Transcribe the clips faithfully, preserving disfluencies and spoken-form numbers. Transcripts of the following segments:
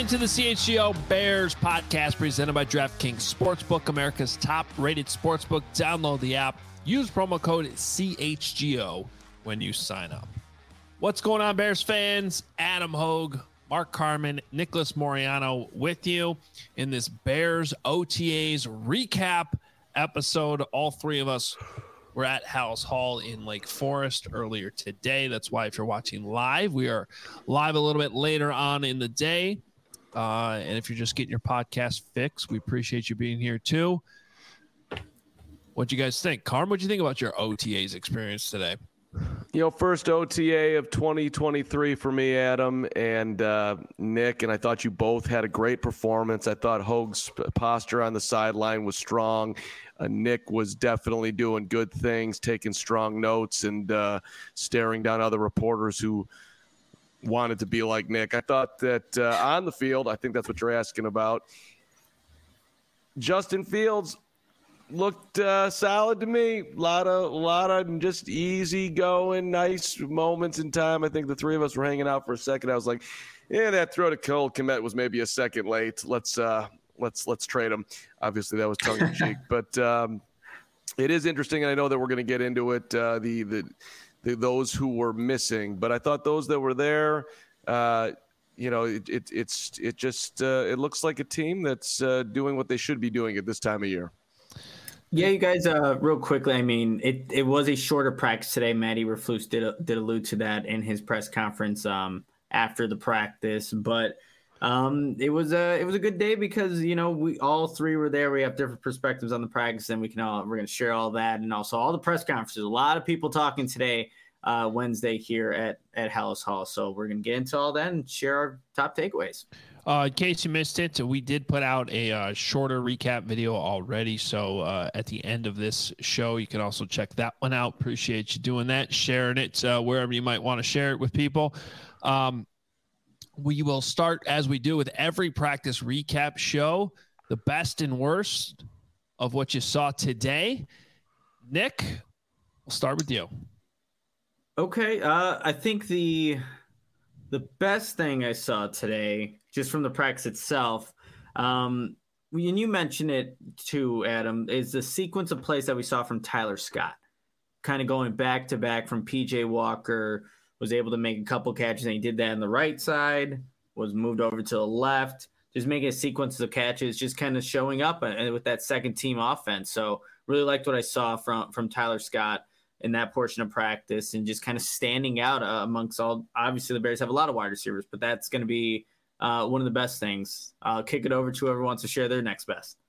into the C H G O Bears podcast presented by DraftKings Sportsbook, America's top-rated sportsbook. Download the app. Use promo code C H G O when you sign up. What's going on, Bears fans? Adam Hogue, Mark Carman, Nicholas Moriano with you in this Bears O T As recap episode. All three of us were at Halas Hall in Lake Forest earlier today. That's why if you're watching live, we are live a little bit later on in the day. Uh, and if you're just getting your podcast fix, we appreciate you being here too. What'd you guys think? Carm, what'd you think about your O T As experience today? You know, first O T A of twenty twenty-three for me, Adam and uh, Nick, and I thought you both had a great performance. I thought Hogue's posture on the sideline was strong. Uh, Nick was definitely doing good things, taking strong notes and uh, staring down other reporters who wanted to be like Nick. I thought that uh, on the field, I think that's what you're asking about, Justin Fields looked uh, solid to me. A lot of, a lot of just easy going, nice moments in time. I think the three of us were hanging out for a second. I was like, yeah, that throw to Cole Kmet was maybe a second late. Let's uh, let's let's trade him. Obviously, that was tongue in cheek, but um, it is interesting, and I know that we're going to get into it. Uh, the, the the those who were missing, but I thought those that were there. Uh, You know, it, it it's it just uh, it looks like a team that's uh, doing what they should be doing at this time of year. Yeah, you guys, uh, real quickly, I mean, it, it was a shorter practice today. Matty Eberflus did did allude to that in his press conference um, after the practice, but um, it was a it was a good day because you know we all three were there. We have different perspectives on the practice, and we can all we're going to share all that, and also all the press conferences. A lot of people talking today, uh, Wednesday here at at Halas Hall. So we're going to get into all that and share our top takeaways. Uh, in case you missed it, we did put out a uh, shorter recap video already. So uh, at the end of this show, you can also check that one out. Appreciate you doing that, sharing it uh, wherever you might want to share it with people. Um, we will start, as we do with every practice recap show, the best and worst of what you saw today. Nick, we'll start with you. Okay, uh, I think the the best thing I saw today, just from the practice itself, um, and you mentioned it too, Adam, is the sequence of plays that we saw from Tyler Scott, kind of going back to back from P J Walker, was able to make a couple catches, and he did that on the right side, was moved over to the left, just making a sequence of catches, just kind of showing up with that second team offense. So really liked what I saw from, from Tyler Scott in that portion of practice and just kind of standing out uh, amongst all. Obviously, the Bears have a lot of wide receivers, but that's going to be uh, one of the best things. I'll kick it over to whoever wants to share their next best.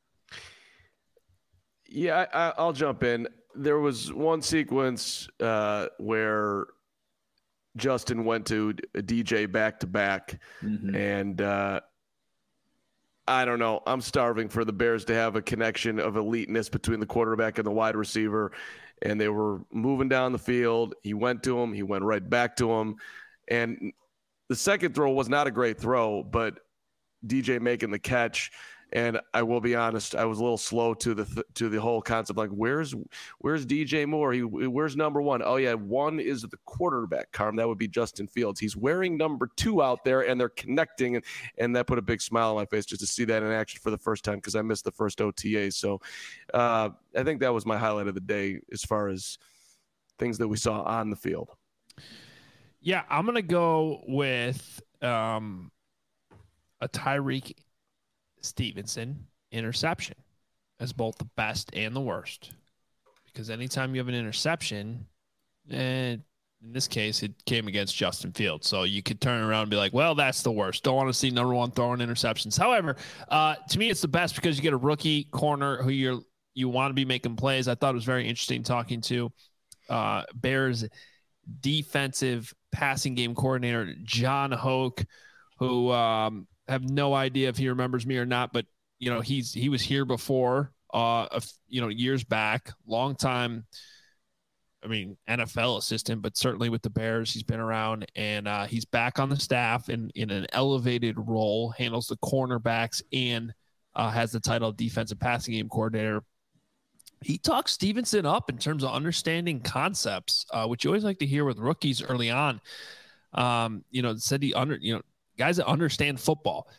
Yeah, I, I'll jump in. There was one sequence uh, where Justin went to a D J back to back, Mm-hmm. and uh, I don't know. I'm starving for the Bears to have a connection of eliteness between the quarterback and the wide receiver. And they were moving down the field. He went to him. He went right back to him. And the second throw was not a great throw, but D J making the catch. And I will be honest, I was a little slow to the th- to the whole concept. Like, where's where's D J Moore? He where's number one? Oh yeah, one is the quarterback. Carm, that would be Justin Fields. He's wearing number two out there, and they're connecting, and, and that put a big smile on my face just to see that in action for the first time because I missed the first O T A. So uh, I think that was my highlight of the day as far as things that we saw on the field. Yeah, I'm gonna go with um, a Tyreek Stevenson interception as both the best and the worst, because anytime you have an interception, and in this case it came against Justin Fields, so you could turn around and be like, well, that's the worst. Don't want to see number one throwing interceptions. However, uh to me it's the best because you get a rookie corner who you're you want to be making plays. I thought it was very interesting talking to uh Bears defensive passing game coordinator John Hoke, who um have no idea if he remembers me or not, but you know, he's, he was here before, uh, a, you know, years back, long time. I mean, N F L assistant, but certainly with the Bears, he's been around, and uh, he's back on the staff in, in an elevated role, handles the cornerbacks and uh, has the title of defensive passing game coordinator. He talks Stevenson up in terms of understanding concepts, uh, which you always like to hear with rookies early on. Um, you know, said he under, you know, guys that understand football.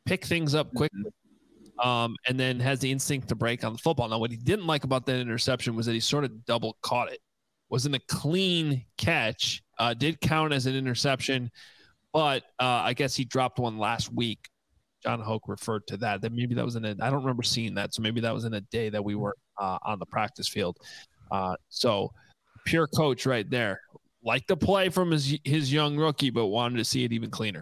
pick things up quickly, um, and then has the instinct to break on the football. Now, what he didn't like about that interception was that he sort of double caught it. Wasn't a clean catch. Uh, did count as an interception, but uh, I guess he dropped one last week. John Hoke referred to that. That maybe that was in a. I don't remember seeing that, so maybe that was in a day that we were uh, on the practice field. Uh, so, pure coach right there. Like the play from his his young rookie, but wanted to see it even cleaner.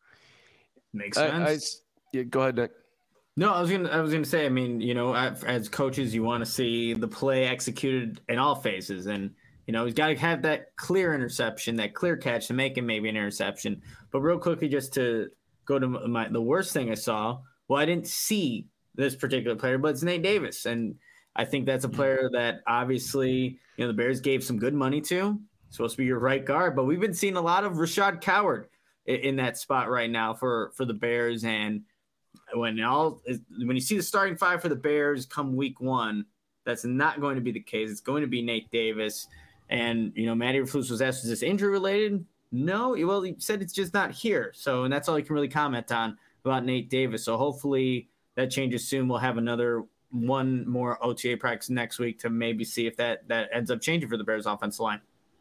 Makes sense. I, I, yeah, go ahead, Nick. No, I was gonna. I was gonna say. I mean, you know, as coaches, you want to see the play executed in all phases, and you know, he's got to have that clear interception, that clear catch to make it maybe an interception. But real quickly, just to go to my the worst thing I saw. Well, I didn't see this particular player, but it's Nate Davis, and I think that's a player that obviously, you know, the Bears gave some good money to. Supposed to be your right guard, but we've been seeing a lot of Rashad Coward in, in that spot right now for for the Bears. And when all when you see the starting five for the Bears come week one, that's not going to be the case. It's going to be Nate Davis. And you know, Matty Eberflus was asked, "Is this injury related?" No, well, he said it's just not here. So, and that's all he can really comment on about Nate Davis. So hopefully that changes soon. We'll have another one more O T A practice next week to maybe see if that that ends up changing for the Bears offensive line.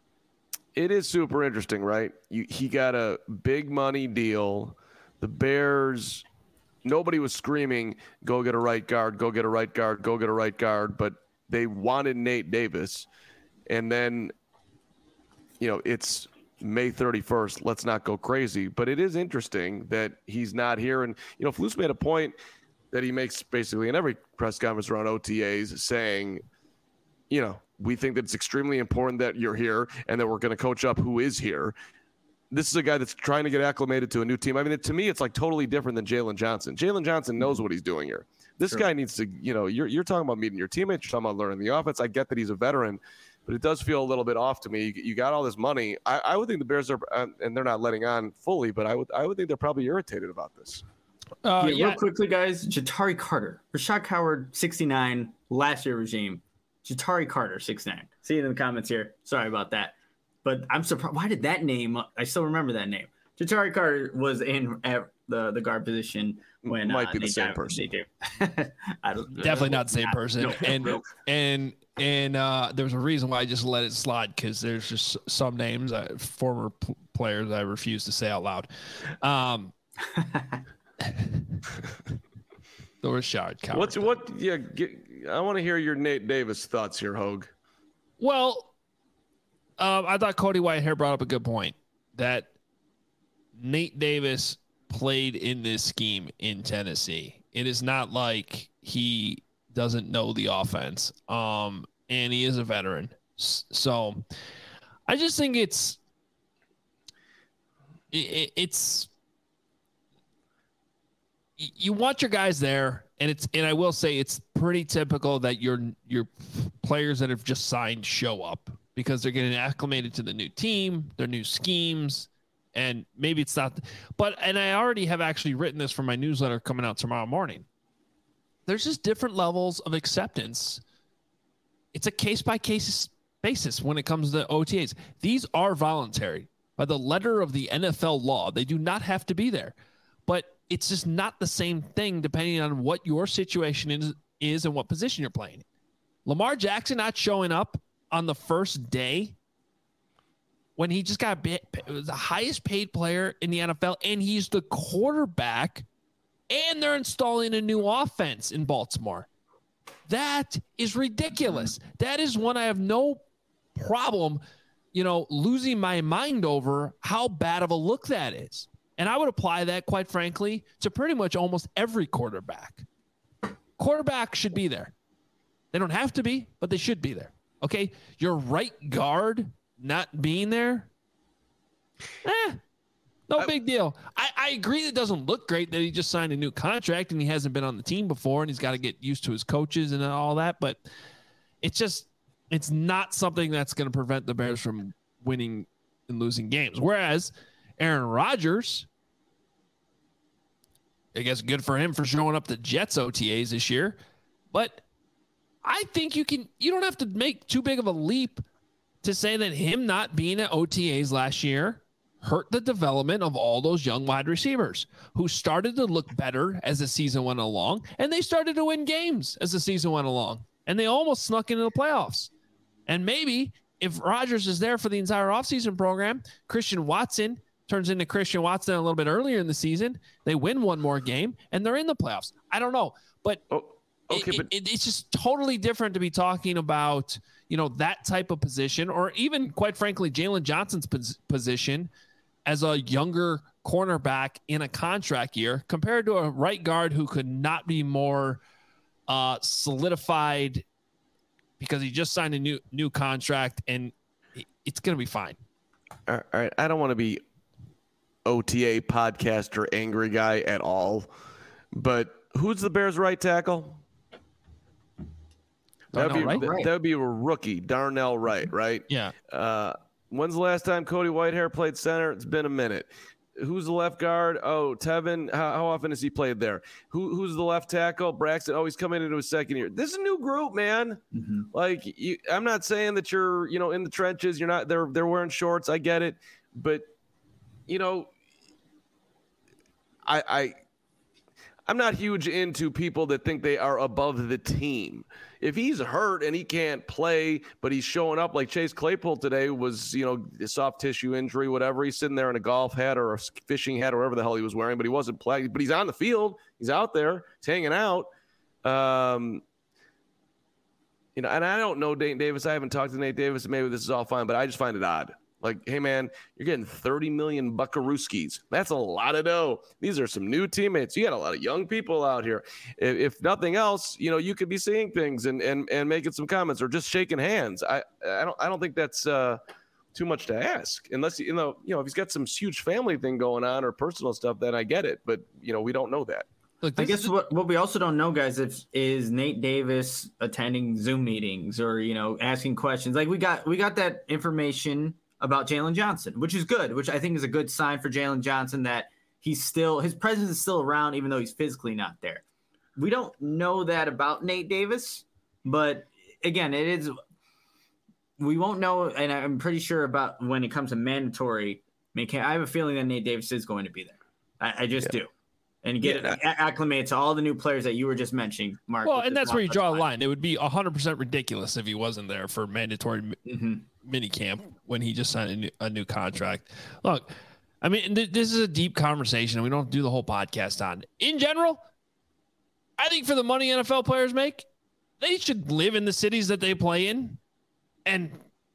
It is super interesting, right? You, he got a big money deal. The Bears, nobody was screaming, go get a right guard, go get a right guard, go get a right guard, but they wanted Nate Davis. And then, you know, it's May thirty-first. Let's not go crazy. But it is interesting that he's not here. And, you know, Flus made a point that he makes basically in every press conference around O T As saying, you know, we think that it's extremely important that you're here and that we're going to coach up who is here. This is a guy that's trying to get acclimated to a new team. I mean, to me, it's like totally different than Jalen Johnson. Jalen Johnson knows what he's doing here. This sure. guy needs to, you know, you're you're talking about meeting your teammates. You're talking about learning the offense. I get that he's a veteran, but it does feel a little bit off to me. You, you got all this money. I, I would think the Bears are, uh, and they're not letting on fully, but I would I would think they're probably irritated about this. Uh, yeah, yeah. Real quickly, guys, Ja'Tyre Carter, Rashad Coward, sixty-nine, last year regime. Ja'Tyre Carter, six nine. See it in the comments here. Sorry about that. But I'm surprised. Why did that name? I still remember that name. Ja'Tyre Carter was in at the, the guard position when might uh, be the they same died, person. I don't, Definitely not the same person. No, and no. and and uh, there's a reason why I just let it slide, because there's just some names, uh, former p- players I refuse to say out loud. Um, the Rashad Coward. What's what? Yeah, get, I want to hear your Nate Davis thoughts here, Hogue. Well, um, I thought Cody Whitehair brought up a good point that Nate Davis played in this scheme in Tennessee. It is not like he doesn't know the offense, um, and he is a veteran. So I just think it's it, it's you want your guys there, and it's and I will say it's pretty typical that your your players that have just signed show up because they're getting acclimated to the new team, their new schemes, and maybe it's not. But and I already have actually written this for my newsletter coming out tomorrow morning. There's just different levels of acceptance. It's a case by case basis when it comes to O T As. These are voluntary by the letter of the N F L law. They do not have to be there, but it's just not the same thing depending on what your situation is, is and what position you're playing. Lamar Jackson not showing up on the first day when he just got bit, the highest paid player in the N F L, and he's the quarterback, and they're installing a new offense in Baltimore. That is ridiculous. That is one I have no problem, you know, losing my mind over how bad of a look that is. And I would apply that, quite frankly, to pretty much almost every quarterback. Quarterback should be there. They don't have to be, but they should be there. Okay? Your right guard not being there, eh, no I, big deal. I, I agree it doesn't look great that he just signed a new contract and he hasn't been on the team before and he's got to get used to his coaches and all that, but it's just, it's not something that's going to prevent the Bears from winning and losing games. Whereas Aaron Rodgers, I guess good for him for showing up to Jets O T As this year, but I think you can, you don't have to make too big of a leap to say that him not being at O T As last year hurt the development of all those young wide receivers who started to look better as the season went along, and they started to win games as the season went along, and they almost snuck into the playoffs. And maybe if Rodgers is there for the entire offseason program, Christian Watson turns into Christian Watson a little bit earlier in the season, they win one more game, and they're in the playoffs. I don't know, but, oh, okay, it, but- it, it's just totally different to be talking about, you know, that type of position, or even, quite frankly, Jalen Johnson's pos- position as a younger cornerback in a contract year compared to a right guard who could not be more uh, solidified because he just signed a new new contract, and it's going to be fine. All right. I don't want to be O T A podcaster angry guy at all, but who's the Bears' right tackle? That would be, Wright? that, that would be a rookie, Darnell Wright, right? Yeah. Uh, when's the last time Cody Whitehair played center? It's been a minute. Who's the left guard? Oh, Tevin. How, how often has he played there? Who, who's the left tackle? Braxton. Oh, he's coming into his second year. This is a new group, man. Mm-hmm. Like, you, I'm not saying that you're, you know, in the trenches. You're not. They're they're wearing shorts. I get it, but you know, I I I'm not huge into people that think they are above the team. If he's hurt and he can't play, but he's showing up like Chase Claypool today was, you know, a soft tissue injury, whatever. He's sitting there in a golf hat or a fishing hat or whatever the hell he was wearing, but he wasn't playing. But he's on the field. He's out there. He's hanging out. Um, you know, and I don't know Nate Davis. I haven't talked to Nate Davis. Maybe this is all fine, but I just find it odd. Like, hey, man, you're getting thirty million buckarooskies. That's a lot of dough. These are some new teammates. You got a lot of young people out here. If, if nothing else, you know, you could be seeing things and, and, and making some comments or just shaking hands. I, I don't I don't think that's uh, too much to ask. Unless, you know, you know, if he's got some huge family thing going on or personal stuff, then I get it. But, you know, we don't know that. Look, I guess what, what we also don't know, guys, if, is Nate Davis attending Zoom meetings or, you know, asking questions. Like we got we got that information about Jalen Johnson, which is good, which I think is a good sign for Jalen Johnson that he's still, his presence is still around, even though he's physically not there. We don't know that about Nate Davis, but again, it is, we won't know. And I'm pretty sure about when it comes to mandatory, I have a feeling that Nate Davis is going to be there. I, I just yeah. do. And get yeah. it acclimated to all the new players that you were just mentioning, Mark. Well, and that's where you draw a line. It would be one hundred percent ridiculous if he wasn't there for mandatory mm-hmm. mini camp when he just signed a new, a new contract. Look, I mean, th- this is a deep conversation, and we don't do the whole podcast on. In general, I think for the money N F L players make, they should live in the cities that they play in and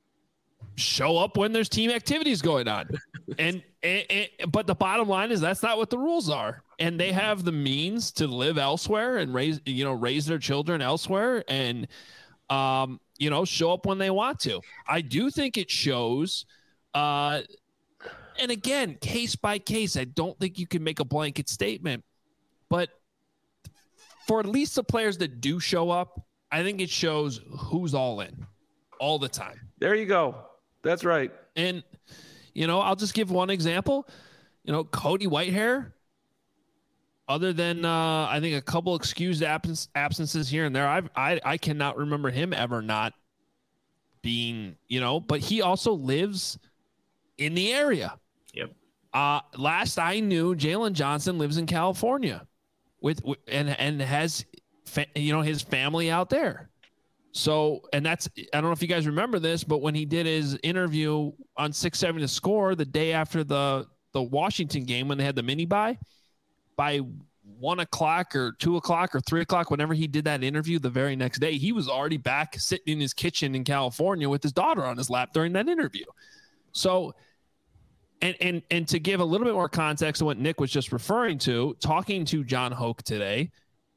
show up when there's team activities going on. and, and, and but the bottom line is that's not what the rules are. And they have the means to live elsewhere and raise, you know, raise their children elsewhere and, um, you know, show up when they want to. I do think it shows. Uh, and again, case by case, I don't think you can make a blanket statement, but for at least the players that do show up, I think it shows who's all in all the time. There you go. That's right. And, you know, I'll just give one example. You know, Cody Whitehair, other than uh, I think a couple excused absence, absences here and there, I've, I I cannot remember him ever not being, you know, but he also lives in the area. Yep. Uh, last I knew, Jalen Johnson lives in California with, with and and has fa- you know his family out there. So, and that's, I don't know if you guys remember this, but when he did his interview on six seventy to Score the day after the, the Washington game, when they had the mini bye, by one o'clock or two o'clock or three o'clock, whenever he did that interview the very next day, he was already back sitting in his kitchen in California with his daughter on his lap during that interview. So, and, and, and to give a little bit more context to what Nick was just referring to, talking to John Hoke today,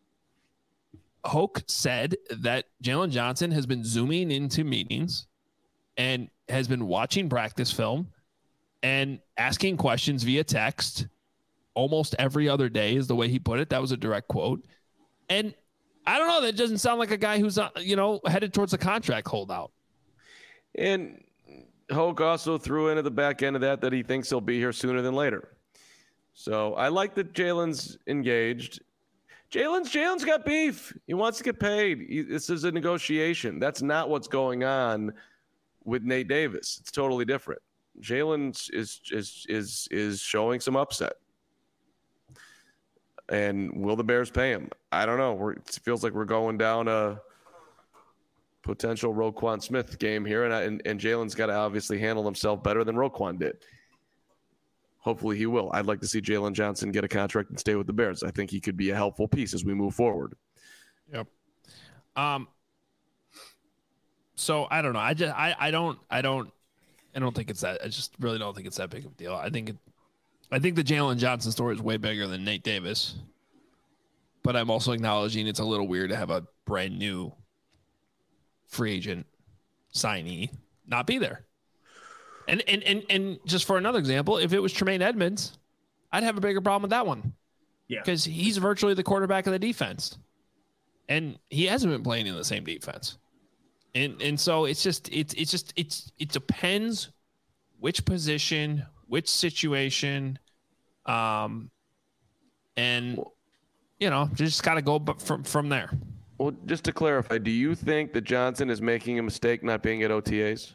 Hoke said that Jalen Johnson has been zooming into meetings and has been watching practice film and asking questions via text almost every other day is the way he put it. That was a direct quote. And I don't know, that doesn't sound like a guy who's, uh, you know, headed towards a contract holdout. And Hoke also threw into the back end of that that he thinks he'll be here sooner than later. So I like that Jalen's engaged. Jalen's Jalen's got beef. He wants to get paid. He, this is a negotiation. That's not what's going on with Nate Davis. It's totally different. Jalen is is is is showing some upset. And will the Bears pay him? I don't know. We're, it feels like we're going down a potential Roquan Smith game here, and I, and, and Jalen's got to obviously handle himself better than Roquan did. Hopefully he will. I'd like to see Jalen Johnson get a contract and stay with the Bears. I think he could be a helpful piece as we move forward. Yep. Um. So I don't know. I just I I don't I don't I don't think it's that. I just really don't think it's that big of a deal. I think it. I think the Jalen Johnson story is way bigger than Nate Davis. But I'm also acknowledging it's a little weird to have a brand new free agent signee not be there. And and and and just for another example, if it was Tremaine Edmonds, I'd have a bigger problem with that one. Yeah. Because he's virtually the quarterback of the defense. And he hasn't been playing in the same defense. And and so it's just it's it's just it's it depends which position, which situation, um, and you know, just got to go from from there. Well, just to clarify, do you think that Johnson is making a mistake not being at O T As?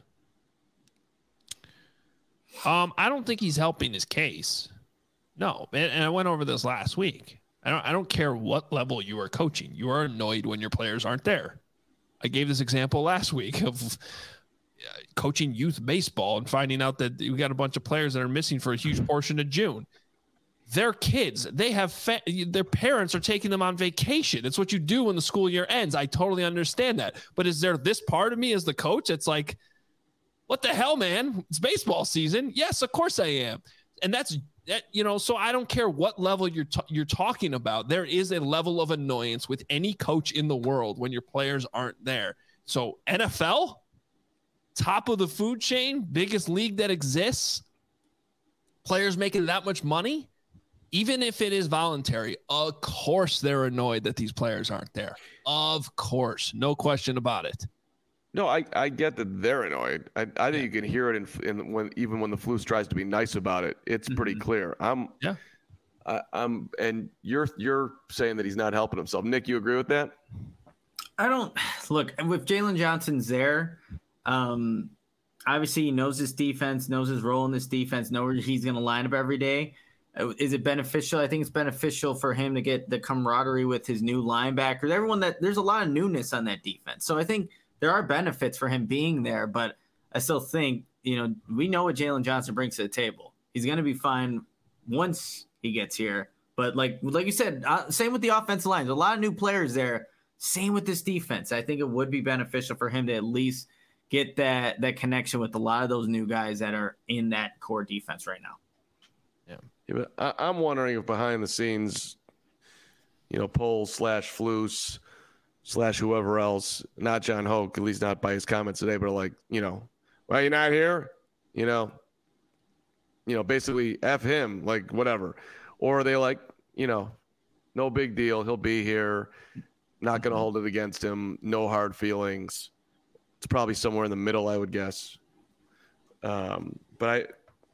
Um, I don't think he's helping his case. No, and, and I went over this last week. I don't I don't care what level you are coaching. You are annoyed when your players aren't there. I gave this example last week of coaching youth baseball and finding out that we got a bunch of players that are missing for a huge portion of June. They're kids. They have fa- their parents are taking them on vacation. It's what you do when the school year ends. I totally understand that. But is there this part of me as the coach? It's like, what the hell, man? It's baseball season. Yes, of course I am. And that's that, you know, so I don't care what level you're t- you're talking about. There is a level of annoyance with any coach in the world when your players aren't there. So N F L, top of the food chain, biggest league that exists, players making that much money, even if it is voluntary, of course they're annoyed that these players aren't there. Of course, no question about it. No, I, I get that they're annoyed. I, I think you can hear it in, in when even when the Flus tries to be nice about it. It's pretty mm-hmm. clear. I'm yeah. I, I'm and you're you're saying that he's not helping himself. Nick, you agree with that? I don't look with Jalen Johnson's there. Um, obviously, he knows his defense, knows his role in this defense, knows where he's going to line up every day. Is it beneficial? I think it's beneficial for him to get the camaraderie with his new linebackers. Everyone that there's a lot of newness on that defense, so I think there are benefits for him being there. But I still think, you know, we know what Jalen Johnson brings to the table. He's going to be fine once he gets here. But like like you said, uh, same with the offensive line. There's a lot of new players there. Same with this defense. I think it would be beneficial for him to at least get that that connection with a lot of those new guys that are in that core defense right now. Yeah, yeah but I, I'm wondering if behind the scenes, you know, Poles slash Flus slash whoever else, not John Hoke, at least not by his comments today, but like, you know, why are you not here? You know, you know, basically F him, like whatever. Or are they like, you know, no big deal. He'll be here. Not going to hold it against him. No hard feelings. It's probably somewhere in the middle, I would guess. Um, but I,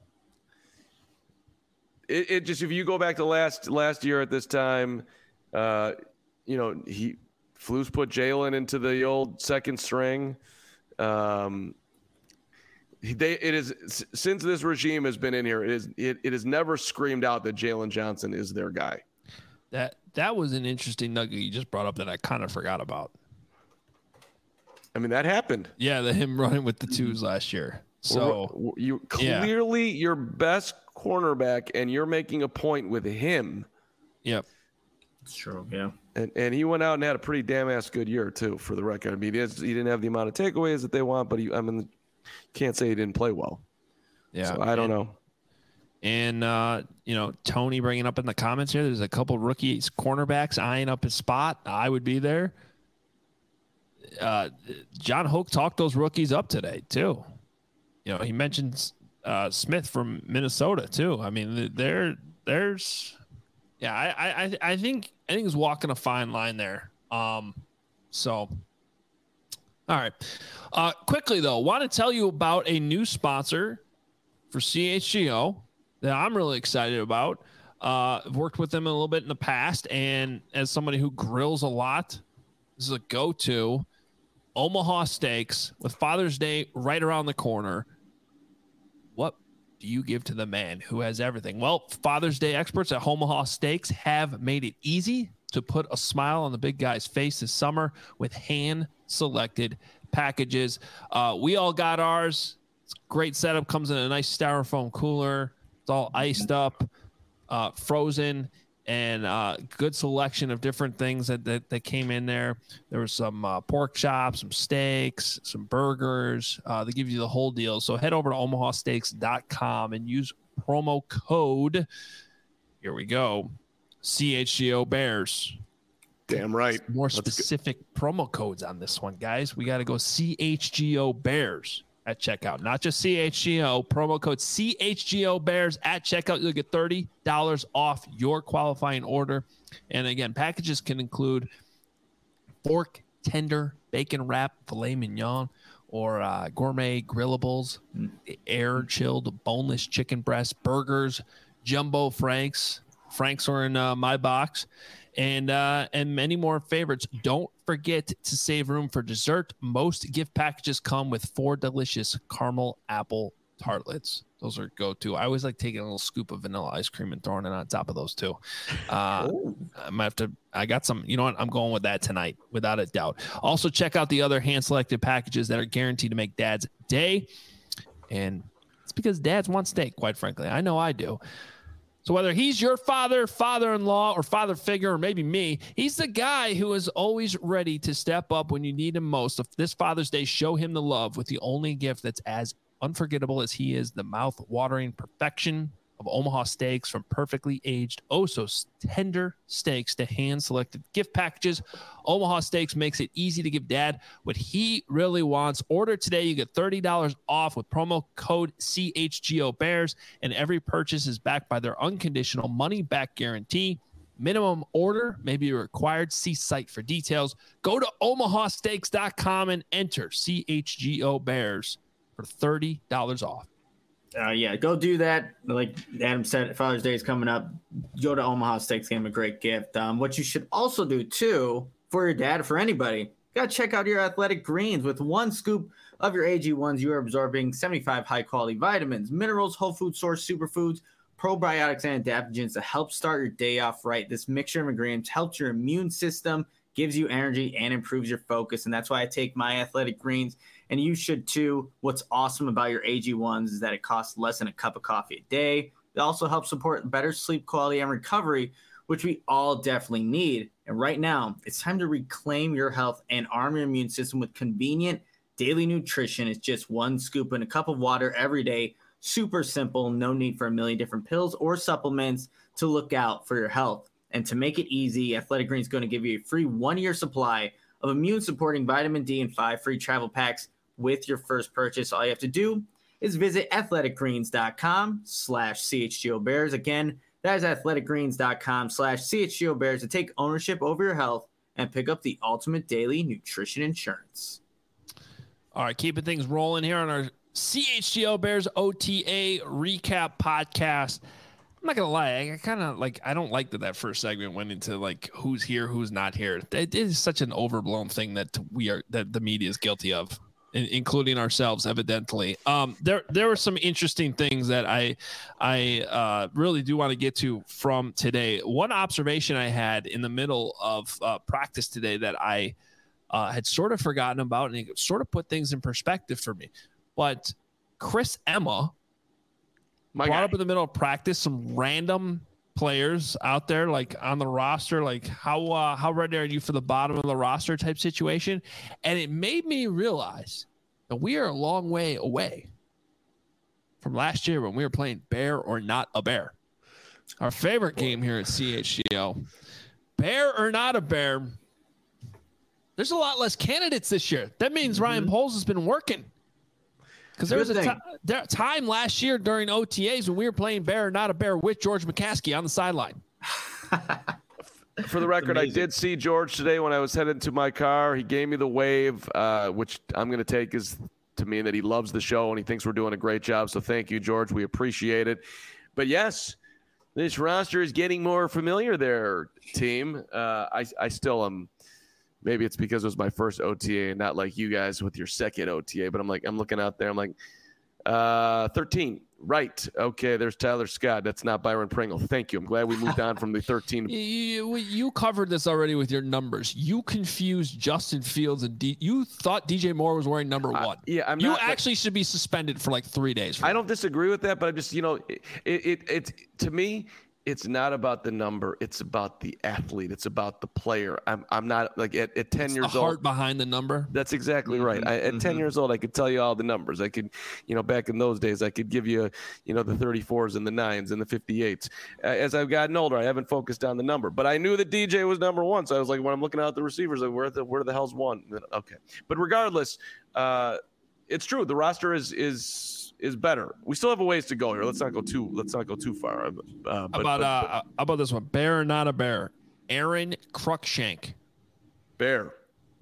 it, it just, if you go back to last, last year at this time, uh, you know, he, Flus put Jalen into the old second string. Um, they, it is since this regime has been in here, it is it, it has never screamed out that Jalen Johnson is their guy. That that was an interesting nugget you just brought up that I kind of forgot about. I mean, that happened. Yeah, the him running with the twos last year. So you clearly yeah. your best cornerback, and you're making a point with him. Yep, it's true. Yeah. And and he went out and had a pretty damn ass good year too, for the record. I mean, he, has, he didn't have the amount of takeaways that they want, but he, I mean, can't say he didn't play well. Yeah, so I don't and, know. And uh, you know, Tony bringing up in the comments here, there's a couple rookies cornerbacks eyeing up his spot. I would be there. Uh, John Hoke talked those rookies up today too. You know, he mentions uh, Smith from Minnesota too. I mean, there, there's. Yeah, I, I, I think I think he's walking a fine line there. Um, so, all right. Uh, quickly though, want to tell you about a new sponsor for C H G O that I'm really excited about. Uh, I've worked with them a little bit in the past, and as somebody who grills a lot, this is a go-to. Omaha Steaks with Father's Day right around the corner. What do you give to the man who has everything? Well, Father's Day experts at Omaha Steaks have made it easy to put a smile on the big guy's face this summer with hand-selected packages. Uh, we all got ours. It's a great setup. Comes in a nice styrofoam cooler. It's all iced up, uh, frozen, and uh, good selection of different things that, that, that came in there. There was some uh, pork chops, some steaks, some burgers. Uh, they give you the whole deal. So head over to omaha steaks dot com and use promo code, here we go, C H G O Bears. Damn right. More Let's specific go. promo codes on this one, guys. We got to go C H G O Bears at checkout, not just C H G O. Promo code C H G O Bears at checkout. You'll get thirty dollars off your qualifying order. And again, packages can include pork, tender, bacon wrap, filet mignon, or uh, gourmet grillables, air chilled boneless chicken breast, burgers, jumbo franks. Franks are in uh, my box. And uh, and many more favorites. Don't forget to save room for dessert. Most gift packages come with four delicious caramel apple tartlets. Those are go-to. I always like taking a little scoop of vanilla ice cream and throwing it on top of those too. Uh, I might have to. I got some. You know what? I'm going with that tonight, without a doubt. Also, check out the other hand-selected packages that are guaranteed to make Dad's day, and it's because dads want steak. Quite frankly, I know I do. So whether he's your father, father-in-law, or father figure, or maybe me, he's the guy who is always ready to step up when you need him most. If this Father's Day, show him the love with the only gift that's as unforgettable as he is, the mouth-watering perfection of Omaha Steaks. From perfectly aged, oh so tender steaks to hand-selected gift packages, Omaha Steaks makes it easy to give Dad what he really wants. Order today. You get thirty dollars off with promo code C H G O Bears, and every purchase is backed by their unconditional money-back guarantee. Minimum order may be required. See site for details. Go to omaha steaks dot com and enter C H G O Bears for thirty dollars off. Uh, yeah, go do that. Like Adam said, Father's Day is coming up. Go to Omaha Steaks, give him a great gift. Um, what you should also do, too, for your dad, for anybody, got to check out your Athletic Greens. With one scoop of your A G ones, you are absorbing seventy-five high-quality vitamins, minerals, whole food source superfoods, probiotics, and adaptogens to help start your day off right. This mixture of ingredients helps your immune system, gives you energy, and improves your focus. And that's why I take my Athletic Greens, and you should too. What's awesome about your A G ones is that it costs less than a cup of coffee a day. It also helps support better sleep quality and recovery, which we all definitely need. And right now, it's time to reclaim your health and arm your immune system with convenient daily nutrition. It's just one scoop in a cup of water every day. Super simple. No need for a million different pills or supplements to look out for your health. And to make it easy, Athletic Greens is going to give you a free one-year supply of immune-supporting vitamin D and five free travel packs with your first purchase. All you have to do is visit athletic greens dot com slash C H G O Bears. Again, that is athletic greens dot com slash C H G O Bears to take ownership over your health and pick up the ultimate daily nutrition insurance. All right, keeping things rolling here on our C H G O Bears O T A recap podcast. I'm not gonna lie, I, I kind of like. I don't like that that first segment went into like who's here, who's not here. It is such an overblown thing that we are that the media is guilty of, in, including ourselves, evidently. Um, there there were some interesting things that I I uh, really do want to get to from today. One observation I had in the middle of uh, practice today that I uh, had sort of forgotten about, and it sort of put things in perspective for me. But Chris Emma. My brought guy. up in the middle of practice some random players out there, like on the roster, like how uh, how ready are you for the bottom of the roster type situation, and it made me realize that we are a long way away from last year when we were playing Bear or Not a Bear, our favorite game here at C H G O. Bear or Not a Bear. There's a lot less candidates this year. That means mm-hmm. Ryan Poles has been working. Because there was a t- there, time last year during O T As when we were playing Bear or Not a Bear with George McCaskey on the sideline. For the record, I did see George today when I was headed to my car. He gave me the wave, uh, which I'm going to take as to mean that he loves the show and he thinks we're doing a great job. So thank you, George. We appreciate it. But yes, this roster is getting more familiar there, team. Uh, I, I still am. Maybe it's because it was my first O T A and not like you guys with your second O T A, but I'm like, I'm looking out there. I'm like, Uh, thirteen. Right. Okay. There's Tyler Scott. That's not Byron Pringle. Thank you. I'm glad we moved on from the thirteen. You, you covered this already with your numbers. You confused Justin Fields and D. You thought D J Moore was wearing number one. Uh, yeah, I'm you not, actually like, should be suspended for like three days. I don't disagree with that, but I'm just, you know, it, it, it to me, it's not about the number. It's about the athlete. It's about the player. I'm I'm not like at, at ten it's years the old. Heart behind the number. That's exactly right. I, at mm-hmm. ten years old, I could tell you all the numbers. I could, you know, back in those days, I could give you, you know, the thirty-fours and the nines and the fifty-eights. As I've gotten older, I haven't focused on the number, but I knew that D J was number one. So I was like, when I'm looking out the receivers, like, where the where the hell's one? Okay, but regardless, uh, it's true. The roster is is. is better. We still have a ways to go here. Let's not go too. Let's not go too far. Uh, but, how about but, uh, but, how about this one? Bear or not a bear? Aaron Cruikshank. Bear.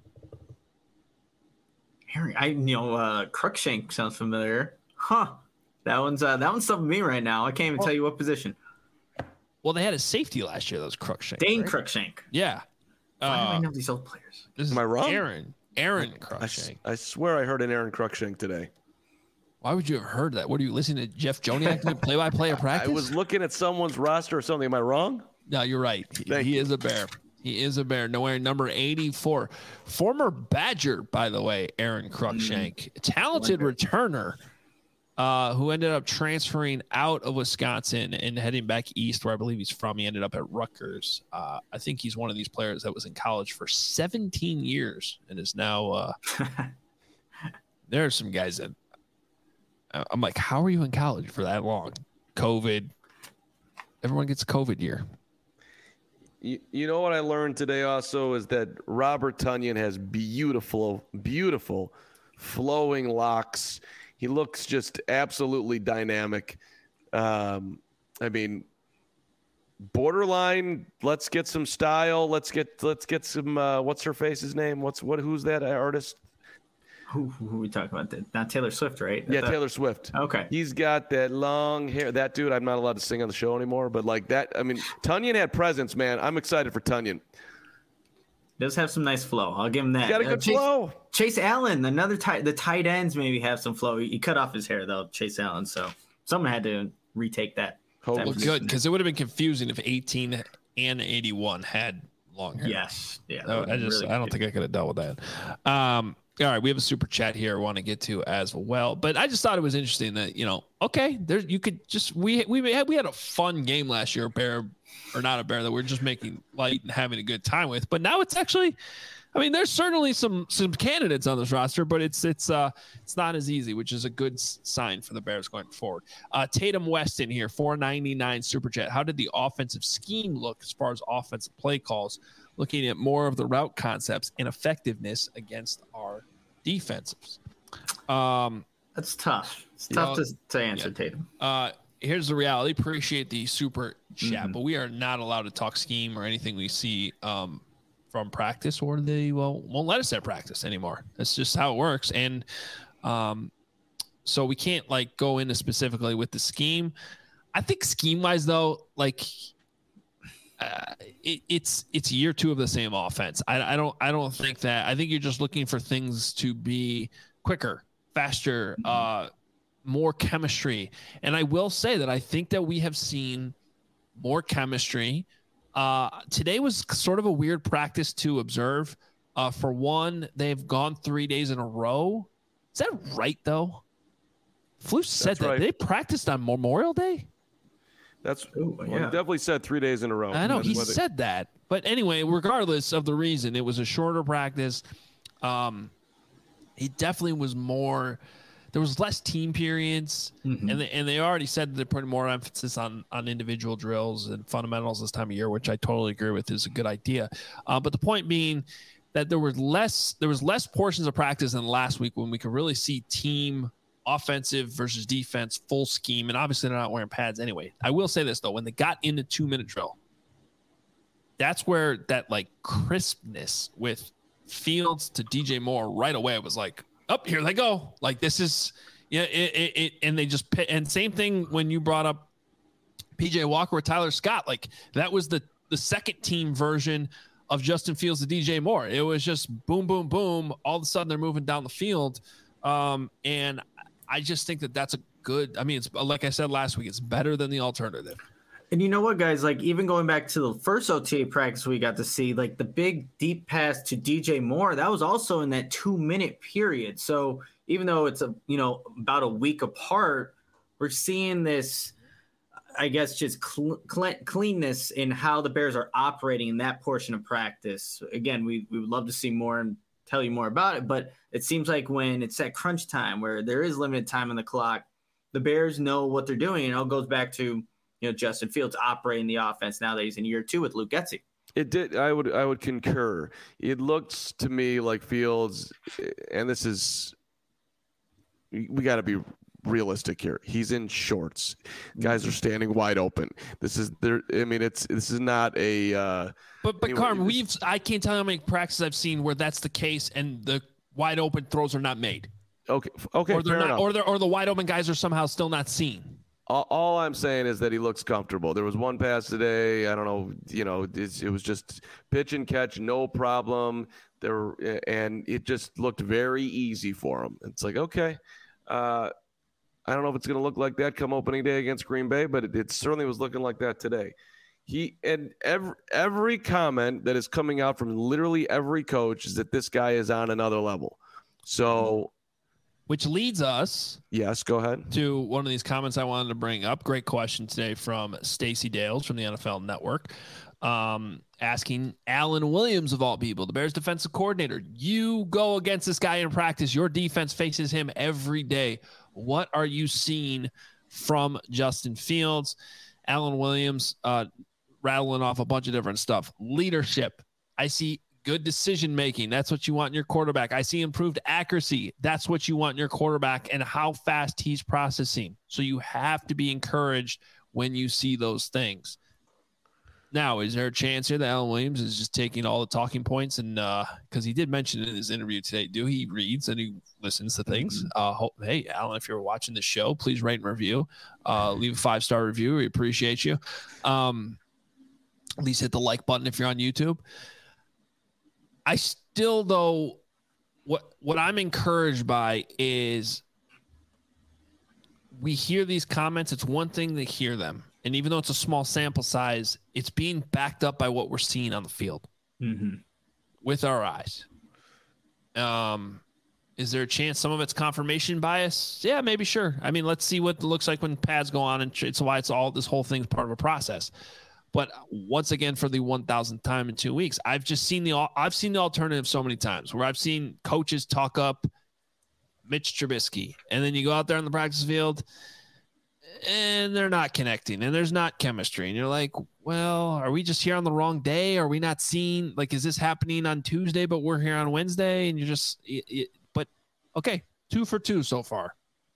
Aaron, I you know uh, Cruikshank sounds familiar. Huh. That one's uh, that one's stumping me right now. I can't even well, tell you what position. Well, they had a safety last year. That was Cruikshank. Dane right? Cruikshank. Yeah. Why uh, do I know these old players? This is Am I wrong? Aaron. Aaron Cruikshank. I, I swear I heard an Aaron Cruikshank today. Why would you have heard that? What are you listening to Jeff Joniak play-by-play of practice? I was looking at someone's roster or something. Am I wrong? No, you're right. Thank he you. is a bear. He is a bear. No wearing number eighty-four. Former Badger, by the way, Aaron Cruikshank. Mm. Talented Wonder. returner uh, who ended up transferring out of Wisconsin and heading back east where I believe he's from. He ended up at Rutgers. Uh, I think he's one of these players that was in college for seventeen years and is now uh, – there are some guys that – I'm like, how are you in college for that long? COVID. Everyone gets COVID year. You, you know what I learned today also is that Robert Tonyan has beautiful, beautiful flowing locks. He looks just absolutely dynamic. Um, I mean, borderline. Let's get some style. Let's get let's get some. Uh, what's her face's name? What's what? Who's that artist? Who, who are we talking about? Not Taylor Swift, right? Yeah, Taylor Swift. Okay. He's got that long hair. That dude, I'm not allowed to sing on the show anymore, but like that, I mean, Tonyan had presence, man. I'm excited for Tonyan. Does have some nice flow. I'll give him that. He's got a good uh, Chase, flow. Chase Allen, another tight. The tight ends maybe have some flow. He cut off his hair though, Chase Allen. So someone had to retake that. Hope well, good because it would have been confusing if eighteen and eighty-one had long hair. Yes. Yeah. So I just, really I don't think I could have dealt with that. Um. All right, we have a super chat here I want to get to as well, but I just thought it was interesting that, you know, okay, there you could just we we had we had a fun game last year, bear or not a bear, that we're just making light and having a good time with, but now it's actually, I mean, there's certainly some some candidates on this roster, but it's it's uh it's not as easy, which is a good sign for the Bears going forward. Uh, Tatum Weston here, four ninety-nine super chat. How did the offensive scheme look as far as offensive play calls? Looking at more of the route concepts and effectiveness against our defenses. Um, That's tough. It's tough know, to, to answer, yeah. Tatum. Uh, here's the reality. Appreciate the super chat, mm-hmm. but we are not allowed to talk scheme or anything we see um, from practice, or they well, won't let us at practice anymore. That's just how it works. And um, so we can't like go into specifically with the scheme. I think scheme-wise, though, like – Uh, it, it's it's year two of the same offense. I, I don't I don't think that. I think you're just looking for things to be quicker, faster, uh, more chemistry. And I will say that I think that we have seen more chemistry. Uh, today was sort of a weird practice to observe. Uh, for one, they've gone three days in a row. Is that right though? Flus said That's that right. They practiced on Memorial Day. That's Ooh, well, yeah. he definitely said three days in a row. I know he whether... said that, but anyway, regardless of the reason, it was a shorter practice. Um, it definitely was more. There was less team periods, mm-hmm. and they, and they already said that they're putting more emphasis on on individual drills and fundamentals this time of year, which I totally agree with is a good idea. Uh, but the point being that there was less there was less portions of practice than last week when we could really see team. Offensive versus defense, full scheme, and obviously they're not wearing pads anyway. I will say this though, when they got into two minute drill, that's where that like crispness with Fields to D J Moore right away was like, up oh, here they go. Like this is, yeah, it, it, it and they just and same thing when you brought up P J Walker with Tyler Scott, like that was the the second team version of Justin Fields to D J Moore. It was just boom, boom, boom. All of a sudden they're moving down the field, um, and. I just think that that's a good. I mean, it's like I said last week, it's better than the alternative. And you know what, guys? Like, even going back to the first O T A practice we got to see, like the big deep pass to D J Moore, that was also in that two minute period. So even though it's a you know about a week apart, we're seeing this, I guess, just cl- cl- cleanness in how the Bears are operating in that portion of practice. Again, we we would love to see more and tell you more about it, but it seems like when it's at crunch time where there is limited time on the clock, the Bears know what they're doing. And it all goes back to you know, Justin Fields operating the offense now that he's in year two with Luke Getsy. It did. I would. I would concur. It looks to me like Fields, and this is. We got to be realistic here. He's in shorts. Guys are standing wide open. This is there. I mean, it's this is not a. Uh, but but anyway, Carm, we've. I can't tell you how many practices I've seen where that's the case, and the wide open throws are not made. Okay. Okay. Or they're fair not. enough. Or they're, or the wide open guys are somehow still not seen. All I'm saying is that he looks comfortable. There was one pass today. I don't know. You know, it, it was just pitch and catch, no problem. There, and it just looked very easy for him. It's like, okay, uh, I don't know if it's going to look like that come opening day against Green Bay, but it, it certainly was looking like that today. He and every every comment that is coming out from literally every coach is that this guy is on another level. So. Which leads us yes, go ahead to one of these comments I wanted to bring up. Great question today from Stacey Dales from the N F L Network, um, asking Alan Williams of all people, the Bears defensive coordinator. You go against this guy in practice. Your defense faces him every day. What are you seeing from Justin Fields? Alan Williams uh, rattling off a bunch of different stuff. Leadership. I see good decision making. That's what you want in your quarterback. I see improved accuracy. That's what you want in your quarterback, and how fast he's processing. So you have to be encouraged when you see those things. Now, is there a chance here that Alan Williams is just taking all the talking points and uh, because he did mention in his interview today, do he reads and he listens to things? Uh, hope, hey, Alan, if you're watching the show, please rate and review. Uh, leave a five star review. We appreciate you. Um, at least hit the like button if you're on YouTube. I still, though, what what I'm encouraged by is we hear these comments. It's one thing to hear them. And even though it's a small sample size, it's being backed up by what we're seeing on the field mm-hmm. with our eyes. Um, is there a chance some of it's confirmation bias? Yeah, maybe, sure. I mean, let's see what it looks like when pads go on, and it's why it's all this whole thing's part of a process. But once again, for the one thousandth time in two weeks, I've just seen the I've seen the alternative so many times where I've seen coaches talk up Mitch Trubisky, and then you go out there on the practice field, and they're not connecting, and there's not chemistry, and you're like, well, are we just here on the wrong day? Are we not seeing, like, is this happening on Tuesday, but we're here on Wednesday? And you're just, it, it, but okay, two for two so far.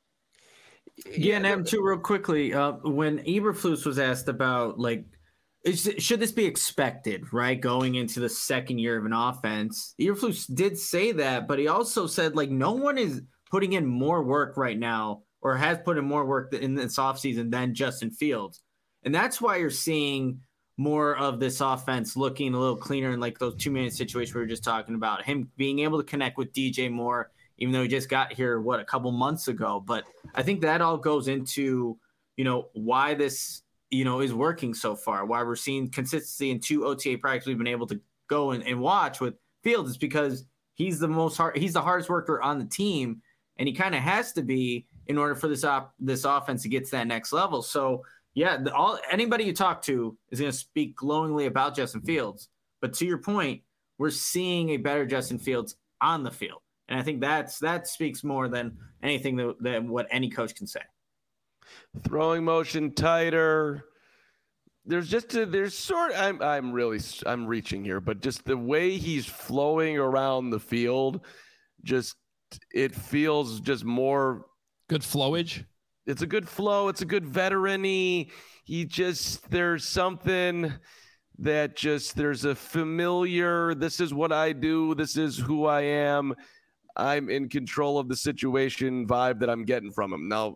Yeah, and Adam, too, real quickly, uh, when Eberflus was asked about, like, Is, should this be expected, right, going into the second year of an offense? Eberflus did say that, but he also said, like, no one is putting in more work right now or has put in more work in this offseason than Justin Fields. And that's why you're seeing more of this offense looking a little cleaner in, like, those two-minute situations we were just talking about. Him being able to connect with D J Moore, even though he just got here, what, a couple months ago. But I think that all goes into, you know, why this – you know, is working so far. Why we're seeing consistency in two O T A practices we've been able to go and, and watch with Fields is because he's the most hard, he's the hardest worker on the team, and he kind of has to be in order for this op, this offense to get to that next level. So yeah, the, all anybody you talk to is going to speak glowingly about Justin Fields. But to your point, we're seeing a better Justin Fields on the field, and I think that's that speaks more than anything that, than what any coach can say. Throwing motion tighter. There's just a, there's sort of, I'm I'm really I'm reaching here, but just the way he's flowing around the field, just it feels just more good flowage. It's a good flow. It's a good veteran-y. He just there's something that just there's a familiar. This is what I do. This is who I am. I'm in control of the situation vibe that I'm getting from him now.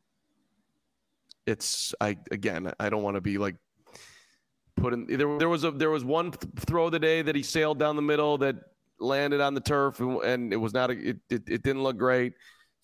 It's I again. I don't want to be like putting. There, there was a there was one th- throw today that he sailed down the middle that landed on the turf, and, and it was not. A, it, it it didn't look great.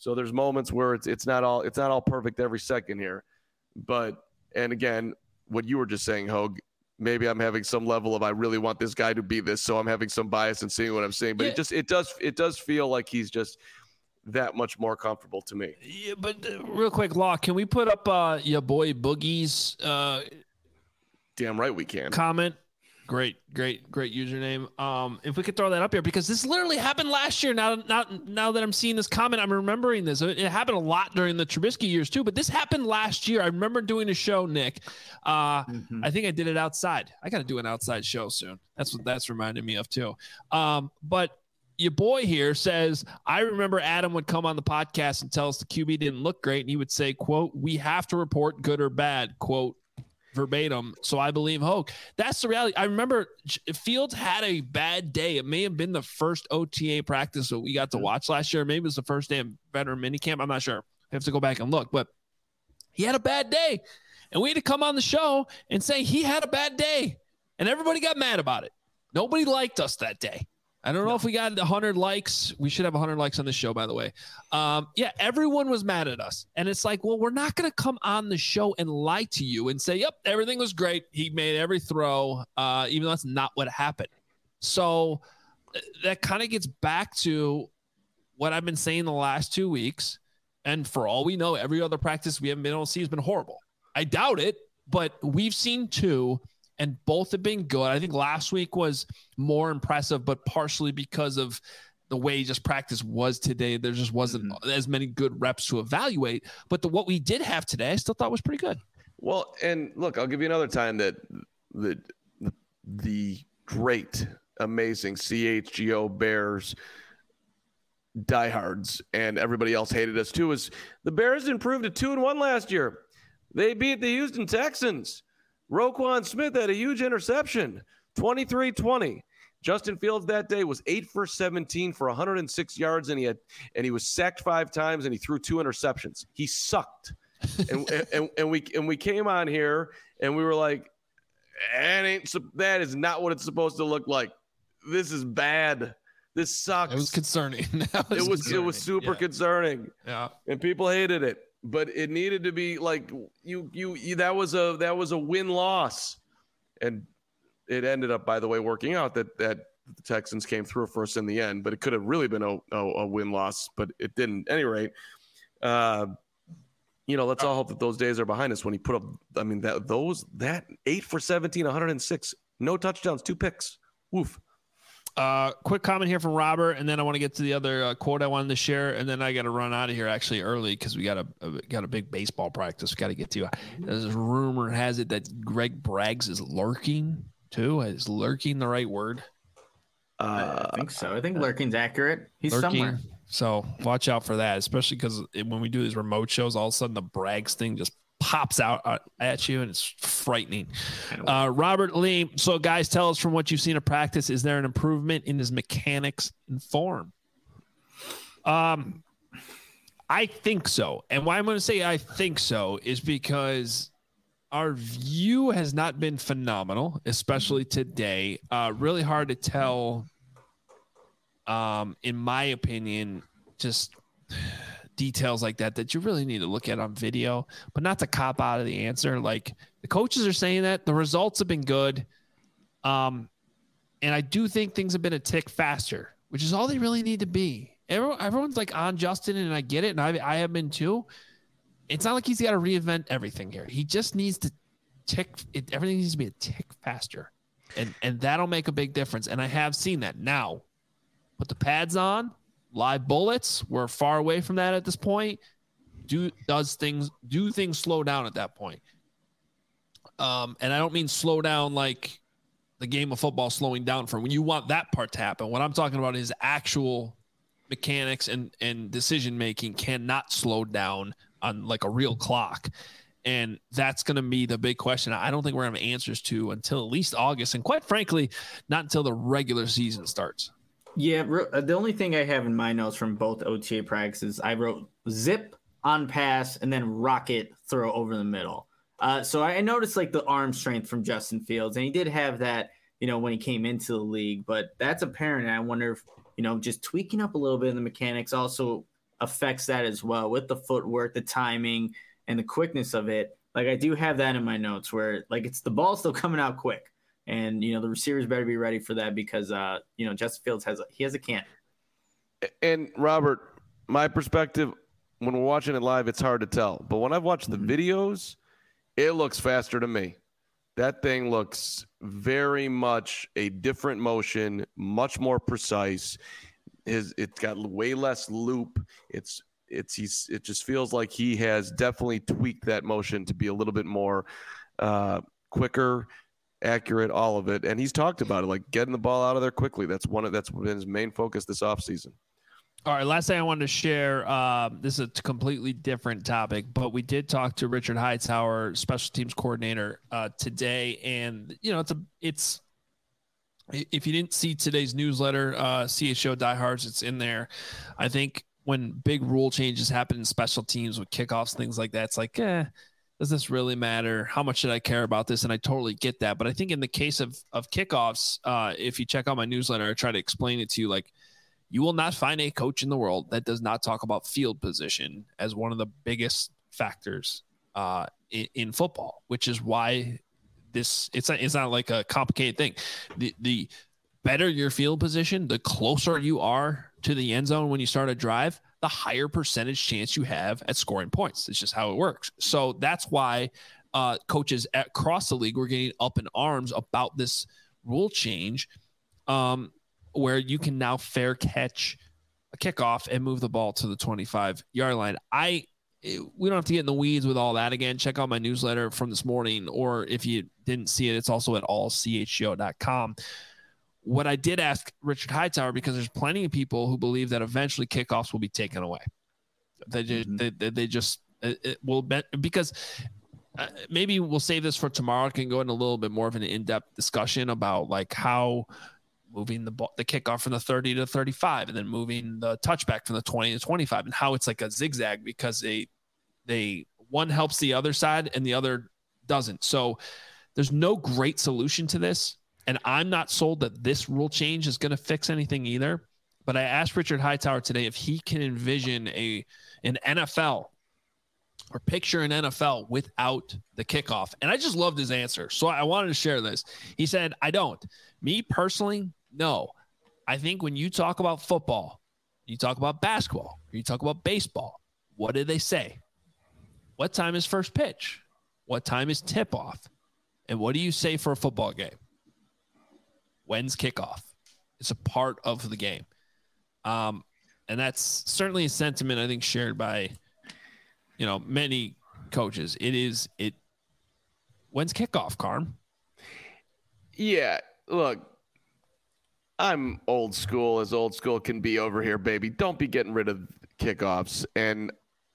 So there's moments where it's it's not all it's not all perfect every second here. But and again, what you were just saying, Hogue, maybe I'm having some level of I really want this guy to be this, so I'm having some bias in seeing what I'm seeing. But yeah. it just it does it does feel like he's just that much more comfortable to me. Yeah, but uh, real quick, Law, can we put up uh, your boy Boogie's uh, Damn right we can. comment? Great, great, great username. Um, if we could throw that up here, because this literally happened last year. Now, not now that I'm seeing this comment, I'm remembering this. It happened a lot during the Trubisky years too, but this happened last year. I remember doing a show, Nick. Uh, mm-hmm. I think I did it outside. I got to do an outside show soon. That's what that's reminding me of too. Um, but your boy here says, I remember Adam would come on the podcast and tell us the Q B didn't look great, and he would say, "quote We have to report good or bad." Quote. Verbatim. So I believe Hogue. That's the reality. I remember Fields had a bad day. It may have been the first O T A practice that we got to watch last year. Maybe it was the first day of veteran minicamp. I'm not sure. I have to go back and look, but he had a bad day, and we had to come on the show and say he had a bad day, and everybody got mad about it. Nobody liked us that day. I don't know no. if we got one hundred likes. We should have one hundred likes on this show, by the way. Um, yeah, everyone was mad at us. And it's like, well, we're not going to come on the show and lie to you and say, yep, everything was great. He made every throw, uh, even though that's not what happened. So that kind of gets back to what I've been saying the last two weeks. And for all we know, every other practice we haven't been able to see has been horrible. I doubt it, but we've seen two. And both have been good. I think last week was more impressive, but partially because of the way just practice was today. There just wasn't mm-hmm. as many good reps to evaluate. But the, what we did have today, I still thought was pretty good. Well, and look, I'll give you another time that the the great, amazing C H G O Bears diehards and everybody else hated us too. Is the Bears improved to two and one last year? They beat the Houston Texans. Roquan Smith had a huge interception, twenty-three twenty. Justin Fields that day was eight for seventeen for one hundred six yards, and he had and he was sacked five times, and he threw two interceptions. He sucked, and, and and we and we came on here and we were like, that ain't that is not what it's supposed to look like. This is bad. This sucks. It was concerning. was it was concerning. It was super yeah. concerning. Yeah, and people hated it. But it needed to be like you, you, you, that was a, that was a win loss. And it ended up, by the way, working out that, that the Texans came through for us in the end, but it could have really been a, a, a win loss, but it didn't. At any rate, uh, you know, let's all hope that those days are behind us when he put up, I mean, that those, that eight for seventeen, one hundred six, no touchdowns, two picks. Woof. Uh, quick comment here from Robert, and then I want to get to the other uh, quote I wanted to share, and then I got to run out of here actually early because we got a, a got a big baseball practice we got to get to. There's a rumor has it that Greg Braggs is lurking too. Is lurking the right word? Uh, I think so. I think lurking's accurate. He's lurking. somewhere. So watch out for that, especially because when we do these remote shows, all of a sudden the Braggs thing just pops out at you and it's frightening. Uh, Robert Lee. So guys, tell us from what you've seen of practice, is there an improvement in his mechanics and form? Um, I think so. And why I'm going to say I think so is because our view has not been phenomenal, especially today. Uh, really hard to tell, um, in my opinion, just details like that that you really need to look at on video, but not to cop out of the answer. Like the coaches are saying that the results have been good. Um, and I do think things have been a tick faster, which is all they really need to be. Everyone, everyone's like on Justin, and I get it. And I, I have been too. It's not like he's got to reinvent everything here. He just needs to tick it. Everything needs to be a tick faster, and, and that'll make a big difference. And I have seen that. Now put the pads on. Live bullets, we're far away from that at this point. Do does things do things slow down at that point? Um, and I don't mean slow down like the game of football slowing down from when you want that part to happen. What I'm talking about is actual mechanics and and decision making cannot slow down on like a real clock. And that's going to be the big question. I don't think we're going to have answers to until at least August, and quite frankly, not until the regular season starts. Yeah, the only thing I have in my notes from both O T A practices, I wrote zip on pass and then rocket throw over the middle. Uh, so I noticed like the arm strength from Justin Fields, and he did have that, you know, when he came into the league. But that's apparent, and I wonder if, you know, just tweaking up a little bit in the mechanics, also affects that as well with the footwork, the timing, and the quickness of it. Like I do have that in my notes where like it's the ball still coming out quick, and you know the receivers better be ready for that because uh you know Justin Fields has a, he has a cannon. And Robert, my perspective when we're watching it live, it's hard to tell, but when I've watched the videos, it looks faster to me. That thing looks very much a different motion, much more precise. His it's got way less loop. It's it's he's it just feels like he has definitely tweaked that motion to be a little bit more uh, quicker, accurate, all of it. And he's talked about it, like getting the ball out of there quickly. That's one of that's been his main focus this offseason. All right, last thing I wanted to share, uh, this is a completely different topic, but we did talk to Richard Hightower, special teams coordinator, uh, today, and you know, it's a, it's. If you didn't see today's newsletter, uh, C H O Diehards, it's in there. I think when big rule changes happen in special teams with kickoffs, things like that, it's like, eh, does this really matter? How much should I care about this? And I totally get that, but I think in the case of of kickoffs, uh, if you check out my newsletter, I try to explain it to you, like. You will not find a coach in the world that does not talk about field position as one of the biggest factors uh, in, in football, which is why this it's not, it's not like a complicated thing. The the better your field position, the closer you are to the end zone when you start a drive, the higher percentage chance you have at scoring points. It's just how it works. So that's why uh, coaches across the league were getting up in arms about this rule change. Um, where you can now fair catch a kickoff and move the ball to the twenty-five yard line. I, we don't have to get in the weeds with all that again. Check out my newsletter from this morning, or if you didn't see it, it's also at all c h g o dot com. What I did ask Richard Hightower, because there's plenty of people who believe that eventually kickoffs will be taken away. They just, mm-hmm. they, they just, it, it will be, because uh, maybe we'll save this for tomorrow. I can go into a little bit more of an in-depth discussion about like how, moving the ball, the kickoff from the thirty to thirty-five, and then moving the touchback from the twenty to twenty-five, and how it's like a zigzag because they, they one helps the other side and the other doesn't. So there's no great solution to this. And I'm not sold that this rule change is going to fix anything either. But I asked Richard Hightower today if he can envision a, an N F L or picture an N F L without the kickoff. And I just loved his answer. So I wanted to share this. He said, I don't. Me personally, no. I think when you talk about football, you talk about basketball, or you talk about baseball, what do they say? What time is first pitch? What time is tip-off? And what do you say for a football game? When's kickoff? It's a part of the game. Um, and that's certainly a sentiment I think shared by, you know, many coaches. It is, it, when's kickoff, Carm? Yeah, look, I'm old school as old school can be over here, baby. Don't be getting rid of kickoffs. And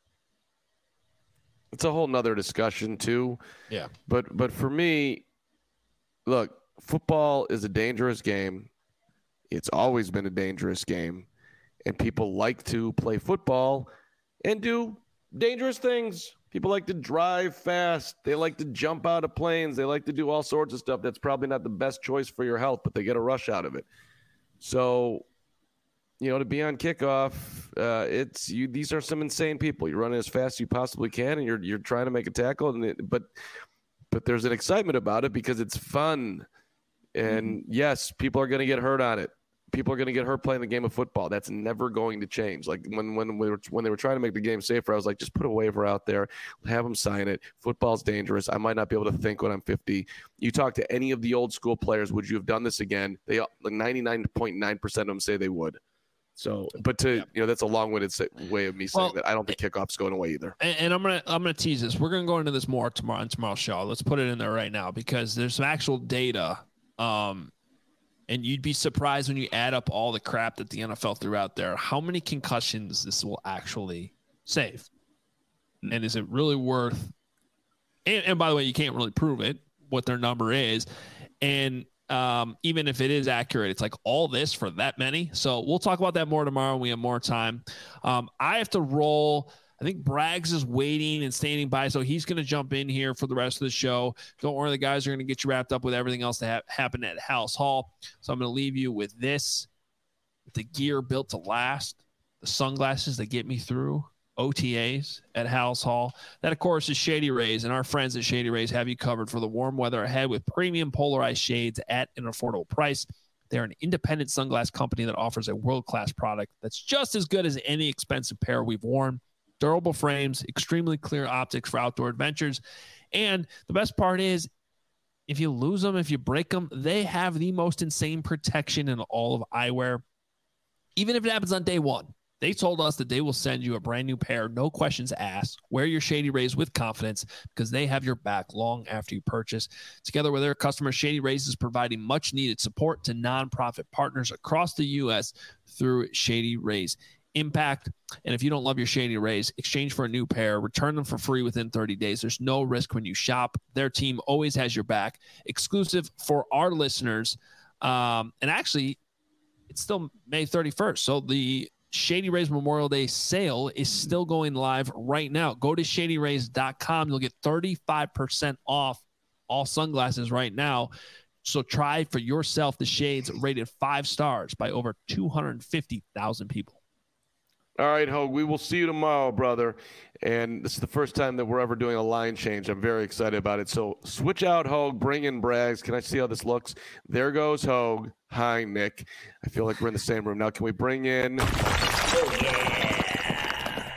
it's a whole nother discussion too. Yeah. But, but for me, look, football is a dangerous game. It's always been a dangerous game. And people like to play football and do dangerous things. People like to drive fast. They like to jump out of planes. They like to do all sorts of stuff. That's probably not the best choice for your health, but they get a rush out of it. So, you know, to be on kickoff, uh, it's you. These are some insane people. You're running as fast as you possibly can, and you're you're trying to make a tackle. And it, but but there's an excitement about it because it's fun. And yes, people are going to get hurt on it. People are going to get hurt playing the game of football. That's never going to change. Like when when we were when they were trying to make the game safer, I was like, just put a waiver out there, have them sign it. Football's dangerous. I might not be able to think when I'm fifty. You talk to any of the old school players, would you have done this again? They like ninety-nine point nine percent of them say they would. So, but to yeah. you know, that's a long-winded way of me saying well, that I don't think kickoff's going away either. And, and I'm gonna I'm gonna tease this. We're gonna go into this more tomorrow on tomorrow's show. Let's put it in there right now because there's some actual data. Um, And you'd be surprised when you add up all the crap that the N F L threw out there, how many concussions this will actually save. And is it really worth and, and by the way, you can't really prove it, what their number is. And um, even if it is accurate, it's like all this for that many. So we'll talk about that more tomorrow when we have more time. Um, I have to roll. I think Braggs is waiting and standing by, so he's going to jump in here for the rest of the show. Don't worry, the guys are going to get you wrapped up with everything else that ha- happened at House Hall. So I'm going to leave you with this. The gear built to last, the sunglasses that get me through O T As at Hal's Hall. That, of course, is Shady Rays, and our friends at Shady Rays have you covered for the warm weather ahead with premium polarized shades at an affordable price. They're an independent sunglass company that offers a world-class product that's just as good as any expensive pair we've worn. Durable frames, extremely clear optics for outdoor adventures. And the best part is, if you lose them, if you break them, they have the most insane protection in all of eyewear. Even if it happens on day one, they told us that they will send you a brand new pair, no questions asked. Wear your Shady Rays with confidence because they have your back long after you purchase. Together with their customers, Shady Rays is providing much needed support to nonprofit partners across the U S through Shady Rays Impact. And if you don't love your Shady Rays, exchange for a new pair, return them for free within thirty days. There's no risk when you shop. Their team always has your back. Exclusive for our listeners. Um, and actually, it's still May thirty-first. So the Shady Rays Memorial Day sale is still going live right now. Go to shady rays dot com. You'll get thirty-five percent off all sunglasses right now. So try for yourself the shades rated five stars by over two hundred fifty thousand people. All right, Hogue, we will see you tomorrow, brother. And this is the first time that we're ever doing a line change. I'm very excited about it. So switch out Hogue, bring in Braggs. Can I see how this looks? There goes Hogue. Hi, Nick. I feel like we're in the same room. Now, can we bring in... Oh, yeah.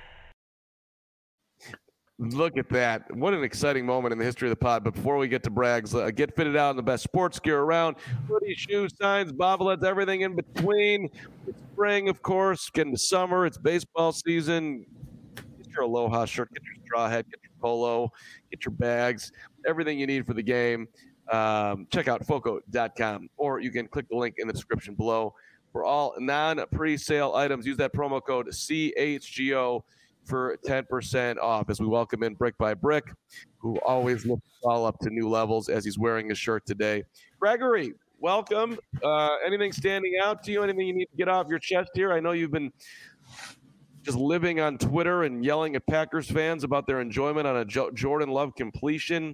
Look at that. What an exciting moment in the history of the pod. But before we get to Braggs, uh, get fitted out in the best sports gear around. Hoodies, shoes, signs, bobbleheads, everything in between. It's spring, of course. Getting to summer. It's baseball season. Get your Aloha shirt. Get your straw hat. Get your polo. Get your bags. Everything you need for the game. Um, check out foco dot com. Or you can click the link in the description below. For all non-pre-sale items, use that promo code C H G O for ten percent off as we welcome in Brick by Brick, who always lifts all up to new levels as he's wearing his shirt today. Gregory, welcome. Uh, anything standing out to you? Anything you need to get off your chest here? I know you've been just living on Twitter and yelling at Packers fans about their enjoyment on a jo- Jordan Love completion.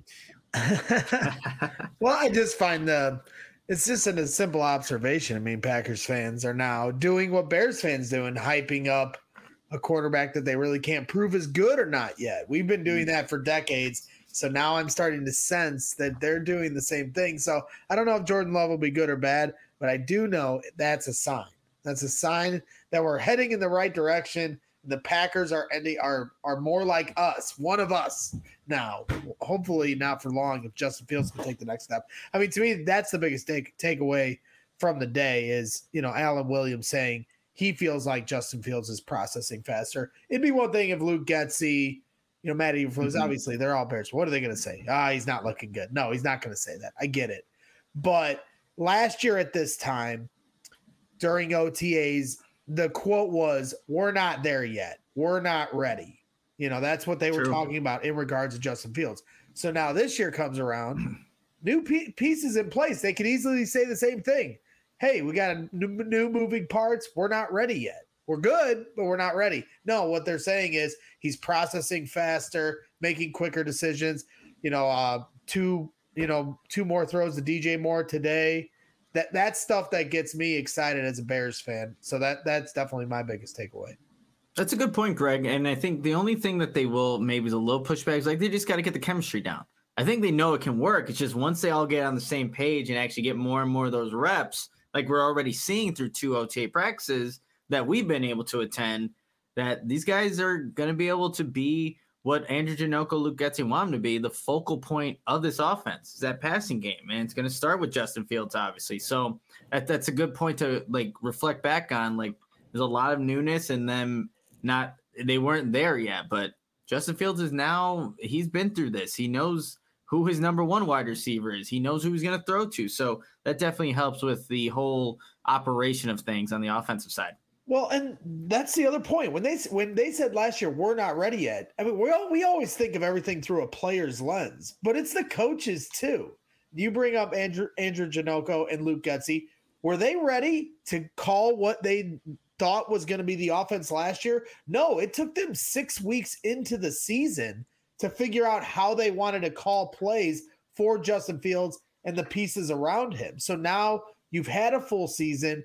Well, I just find the it's just a simple observation. I mean, Packers fans are now doing what Bears fans do and hyping up a quarterback that they really can't prove is good or not yet. We've been doing that for decades. So now I'm starting to sense that they're doing the same thing. So I don't know if Jordan Love will be good or bad, but I do know that's a sign. That's a sign that we're heading in the right direction. The Packers are ending are are more like us, one of us now. Hopefully not for long if Justin Fields can take the next step. I mean, to me, that's the biggest take takeaway from the day is, you know, Alan Williams saying he feels like Justin Fields is processing faster. It'd be one thing if Luke Getsy, you know, Matt Eberflus, mm-hmm. obviously they're all Bears. What are they going to say? Ah, he's not looking good. No, he's not going to say that. I get it. But last year at this time, during O T As, the quote was, we're not there yet. We're not ready. You know, that's what they True. were talking about in regards to Justin Fields. So now this year comes around, new p- pieces in place. They could easily say the same thing. Hey, we got a new, new moving parts. We're not ready yet. We're good, but we're not ready. No, what they're saying is he's processing faster, making quicker decisions. You know, uh, two, you know, two more throws to D J Moore today. That that's stuff that gets me excited as a Bears fan. So that that's definitely my biggest takeaway. That's a good point, Greg. And I think the only thing that they will maybe the little pushback is like they just got to get the chemistry down. I think they know it can work. It's just once they all get on the same page and actually get more and more of those reps, like we're already seeing through two O T A practices that we've been able to attend, that these guys are going to be able to be what Andrew Janocko, Luke Getsy want them to be, the focal point of this offense is that passing game. And it's going to start with Justin Fields, obviously. So that, that's a good point to like reflect back on. Like there's a lot of newness and them not, they weren't there yet, but Justin Fields is now, he's been through this. He knows who his number one wide receiver is. He knows who he's going to throw to. So that definitely helps with the whole operation of things on the offensive side. Well, and that's the other point. When they when they said last year, we're not ready yet, I mean, we all, we always think of everything through a player's lens, but it's the coaches too. You bring up Andrew, Andrew Janocko and Luke Getsy. Were they ready to call what they thought was going to be the offense last year? No, it took them six weeks into the season to figure out how they wanted to call plays for Justin Fields and the pieces around him. So now you've had a full season.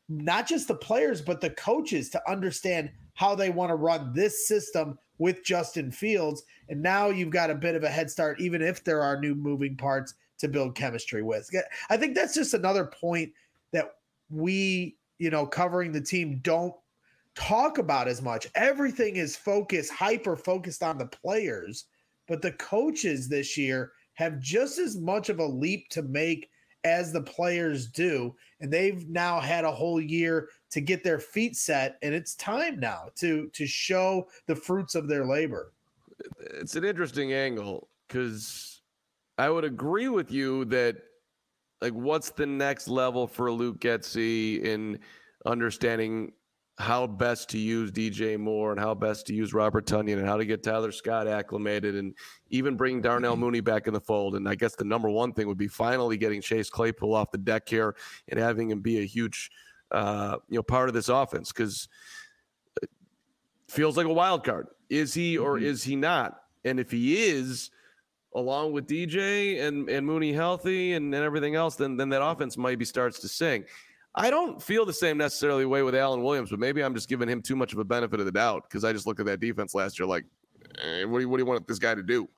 not just the players, but the coaches to understand how they want to run this system with Justin Fields. And now you've got a bit of a head start, even if there are new moving parts to build chemistry with. I think that's just another point that we, you know, covering the team don't talk about as much. Everything is focused, hyper focused on the players, but the coaches this year have just as much of a leap to make as the players do. And they've now had a whole year to get their feet set. And it's time now to, to show the fruits of their labor. It's an interesting angle because I would agree with you that, like, what's the next level for Luke Getsy in understanding how best to use D J Moore and how best to use Robert Tonyan and how to get Tyler Scott acclimated and even bring Darnell Mooney back in the fold. And I guess the number one thing would be finally getting Chase Claypool off the deck here and having him be a huge, uh, you know, part of this offense, because it feels like a wild card. Is he or mm-hmm. is he not? And if he is, along with D J and, and Mooney healthy and, and everything else, then then that offense maybe starts to sing. I don't feel the same necessarily way with Alan Williams, but maybe I'm just giving him too much of a benefit of the doubt because I just look at that defense last year like, eh, what, do you, what do you want this guy to do?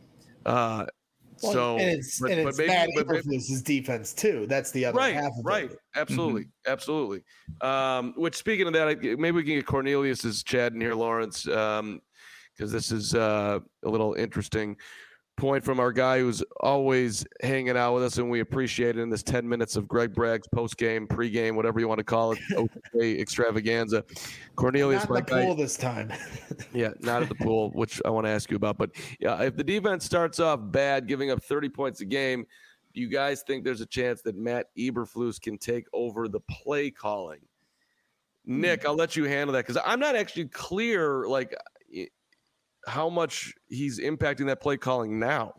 Uh, well, so and it's, but, and but it's maybe, Matt but Eberflus's defense too. That's the other right, half of right. it. Absolutely, mm-hmm. absolutely. Um, which, speaking of that, I, maybe we can get Cornelius's chat in here, Lawrence, because um, this is uh, a little interesting point from our guy who's always hanging out with us, and we appreciate it in this ten minutes of Greg Bragg's post-game, pre-game, whatever you want to call it, O T A extravaganza. Cornelius, not at the guy, pool this time. yeah, not at the pool, which I want to ask you about. But yeah, if the defense starts off bad, giving up thirty points a game, do you guys think there's a chance that Matt Eberflus can take over the play calling? Nick, I'll let you handle that because I'm not actually clear, like, how much he's impacting that play calling now.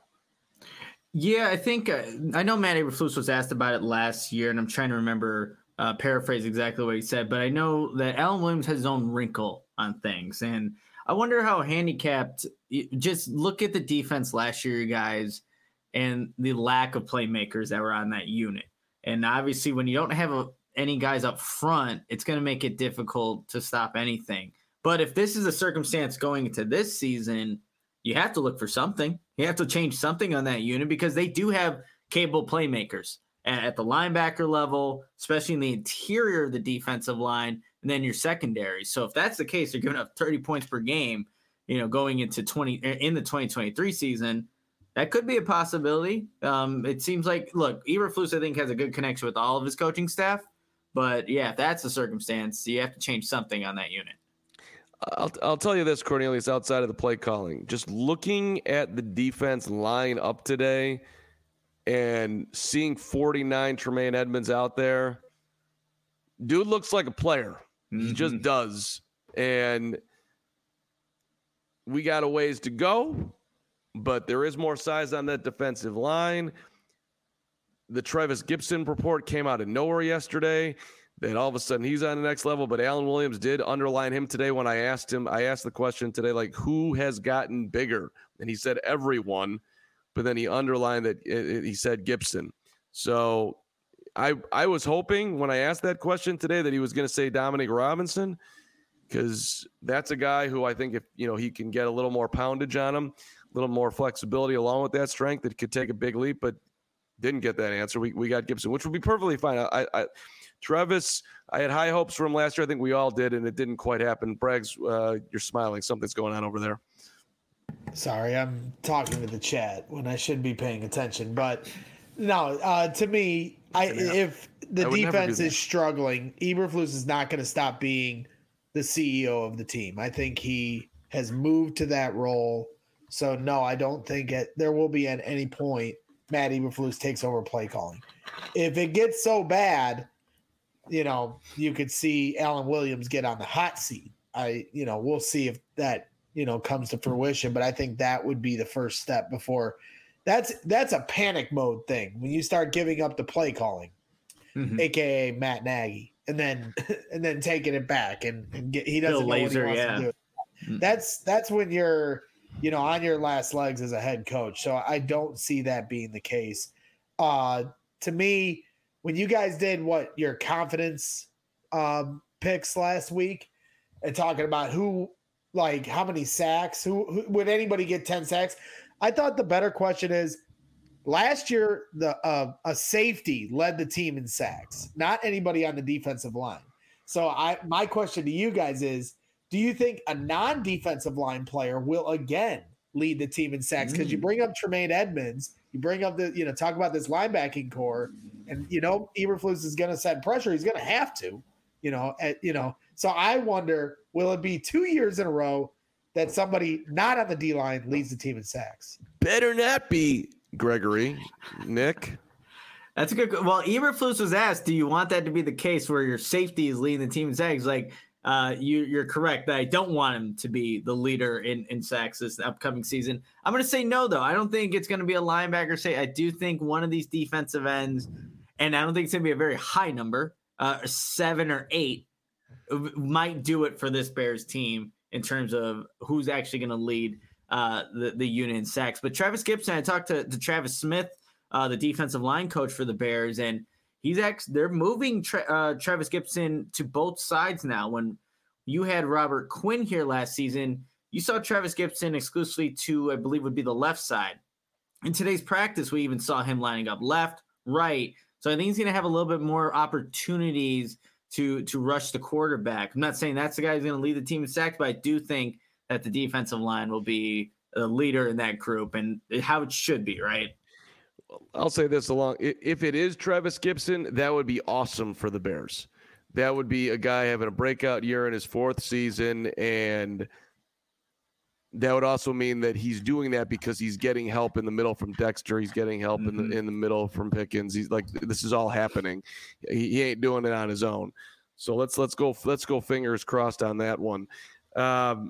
Yeah, I think uh, I know Matt Eberflus was asked about it last year, and I'm trying to remember, uh, paraphrase exactly what he said, but I know that Alan Williams has his own wrinkle on things, and I wonder how handicapped. Just look at the defense last year, you guys, and the lack of playmakers that were on that unit. And obviously, when you don't have a, any guys up front, it's going to make it difficult to stop anything. But if this is a circumstance going into this season, you have to look for something. You have to change something on that unit because they do have capable playmakers at the linebacker level, especially in the interior of the defensive line, and then your secondary. So if that's the case, they're giving up thirty points per game, you know, going into twenty in the twenty twenty-three season. That could be a possibility. Um, it seems like, look, Eberflus, I think, has a good connection with all of his coaching staff. But yeah, if that's the circumstance, you have to change something on that unit. I'll I'll tell you this, Cornelius, outside of the play calling, just looking at the defense line up today and seeing forty-nine Tremaine Edmonds out there, dude looks like a player. Mm-hmm. He just does. And we got a ways to go, but there is more size on that defensive line. The Travis Gibson report came out of nowhere yesterday. That all of a sudden he's on the next level, but Alan Williams did underline him today when I asked him, I asked the question today, like, who has gotten bigger? And he said everyone, but then he underlined that it, it, he said Gibson. So I I was hoping when I asked that question today that he was going to say Dominic Robinson, because that's a guy who I think if, you know, he can get a little more poundage on him, a little more flexibility along with that strength, it could take a big leap, but didn't get that answer. We we got Gibson, which would be perfectly fine. I, I Travis, I had high hopes for him last year. I think we all did, and it didn't quite happen. Braggs, uh, you're smiling. Something's going on over there. Sorry, I'm talking to the chat when I should be paying attention. But no, uh, to me, I if the I defense is struggling, Eberflus is not going to stop being the C E O of the team. I think he has moved to that role. So, no, I don't think it, there will be at any point Matt Eberflus takes over play calling. If it gets so bad, you know, you could see Alan Williams get on the hot seat. I, you know, we'll see if that, you know, comes to fruition, but I think that would be the first step before that's, that's a panic mode thing. When you start giving up the play calling, mm-hmm. A K A Matt Nagy, and then, and then taking it back and, and get, he doesn't Bill know Laser, what he wants yeah. to do. Mm-hmm. That's, that's when you're, you know, on your last legs as a head coach. So I don't see that being the case. Uh, to me, when you guys did what your confidence um, picks last week and talking about who, like, how many sacks, who, who would anybody get ten sacks? I thought the better question is, last year, the uh, a safety led the team in sacks, not anybody on the defensive line. So I, my question to you guys is, do you think a non-defensive line player will again lead the team in sacks? Because mm. you bring up Tremaine Edmonds, you bring up the, you know, talk about this linebacking core, and you know Eberflus is going to set pressure. He's going to have to, you know, at, you know. So I wonder, will it be two years in a row that somebody not on the D line leads the team in sacks? Better not be, Gregory. Nick. That's a good. Well, Eberflus was asked, "Do you want that to be the case where your safety is leading the team in sacks?" Like, uh, you, you're correct that I don't want him to be the leader in, in sacks this upcoming season. I'm going to say no, though. I don't think it's going to be a linebacker. Say, I do think one of these defensive ends, and I don't think it's going to be a very high number, uh, seven or eight, might do it for this Bears team in terms of who's actually going to lead uh, the the unit in sacks. But Travis Gibson, I talked to, to Travis Smith, Uh, the defensive line coach for the Bears, and he's actually they're moving tra- uh, Travis Gibson to both sides now. When you had Robert Quinn here last season, you saw Travis Gibson exclusively to, I believe, would be the left side. In today's practice, we even saw him lining up left, right. So I think he's going to have a little bit more opportunities to to rush the quarterback. I'm not saying that's the guy who's going to lead the team in sacks, but I do think that the defensive line will be a leader in that group, and how it should be, right? I'll say this along. If it is Travis Gibson, that would be awesome for the Bears. That would be a guy having a breakout year in his fourth season. And that would also mean that he's doing that because he's getting help in the middle from Dexter. He's getting help mm-hmm. in the in the middle from Pickens. He's like, this is all happening. He, he ain't doing it on his own. So let's, let's go, let's go fingers crossed on that one. Um,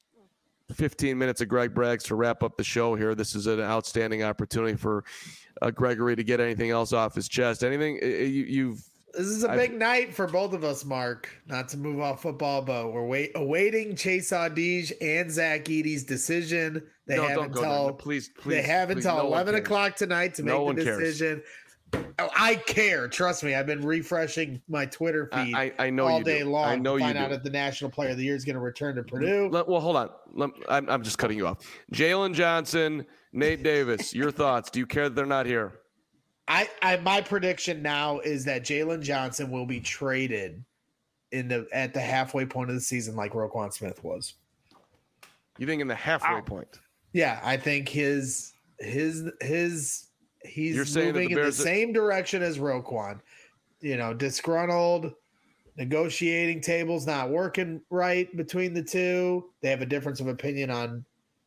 fifteen minutes of Greg Braggs to wrap up the show here. This is an outstanding opportunity for uh, Gregory to get anything else off his chest. Anything you, you've. This is a I've, big night for both of us, Mark. Not to move off football, but we're wait, awaiting Chase Audige and Zach Edey's decision. They no, have don't until go please, please. They have please, until no eleven o'clock tonight to no make the decision. Cares. Oh, I care. Trust me. I've been refreshing my Twitter feed I, I, I know all you day do. long I know to find you out do. if the National Player of the Year is going to return to Purdue. Let, well, hold on. Let, I'm, I'm just cutting you off. Jalen Johnson, Nate Davis, your thoughts. Do you care that they're not here? I, I my prediction now is that Jalen Johnson will be traded in the at the halfway point of the season, like Roquan Smith was. You think in the halfway Ow. point? Yeah, I think his his his he's You're saying moving that the in the Bears are- same direction as Roquan. You know, disgruntled, negotiating tables not working right between the two. They have a difference of opinion on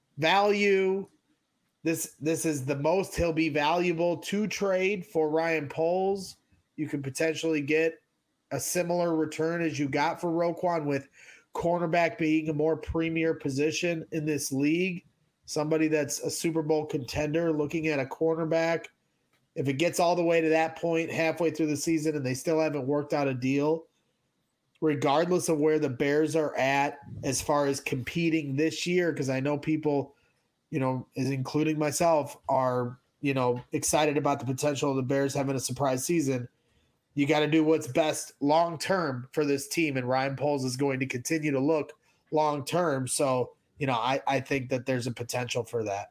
value. This this is the most he'll be valuable to trade for Ryan Poles. You could potentially get a similar return as you got for Roquan, with cornerback being a more premier position in this league. Somebody that's a Super Bowl contender looking at a cornerback. If it gets all the way to that point halfway through the season and they still haven't worked out a deal, regardless of where the Bears are at as far as competing this year, because I know people, you know, is including myself, are, you know, excited about the potential of the Bears having a surprise season. You got to do what's best long-term for this team. And Ryan Poles is going to continue to look long-term. So, you know, I, I think that there's a potential for that.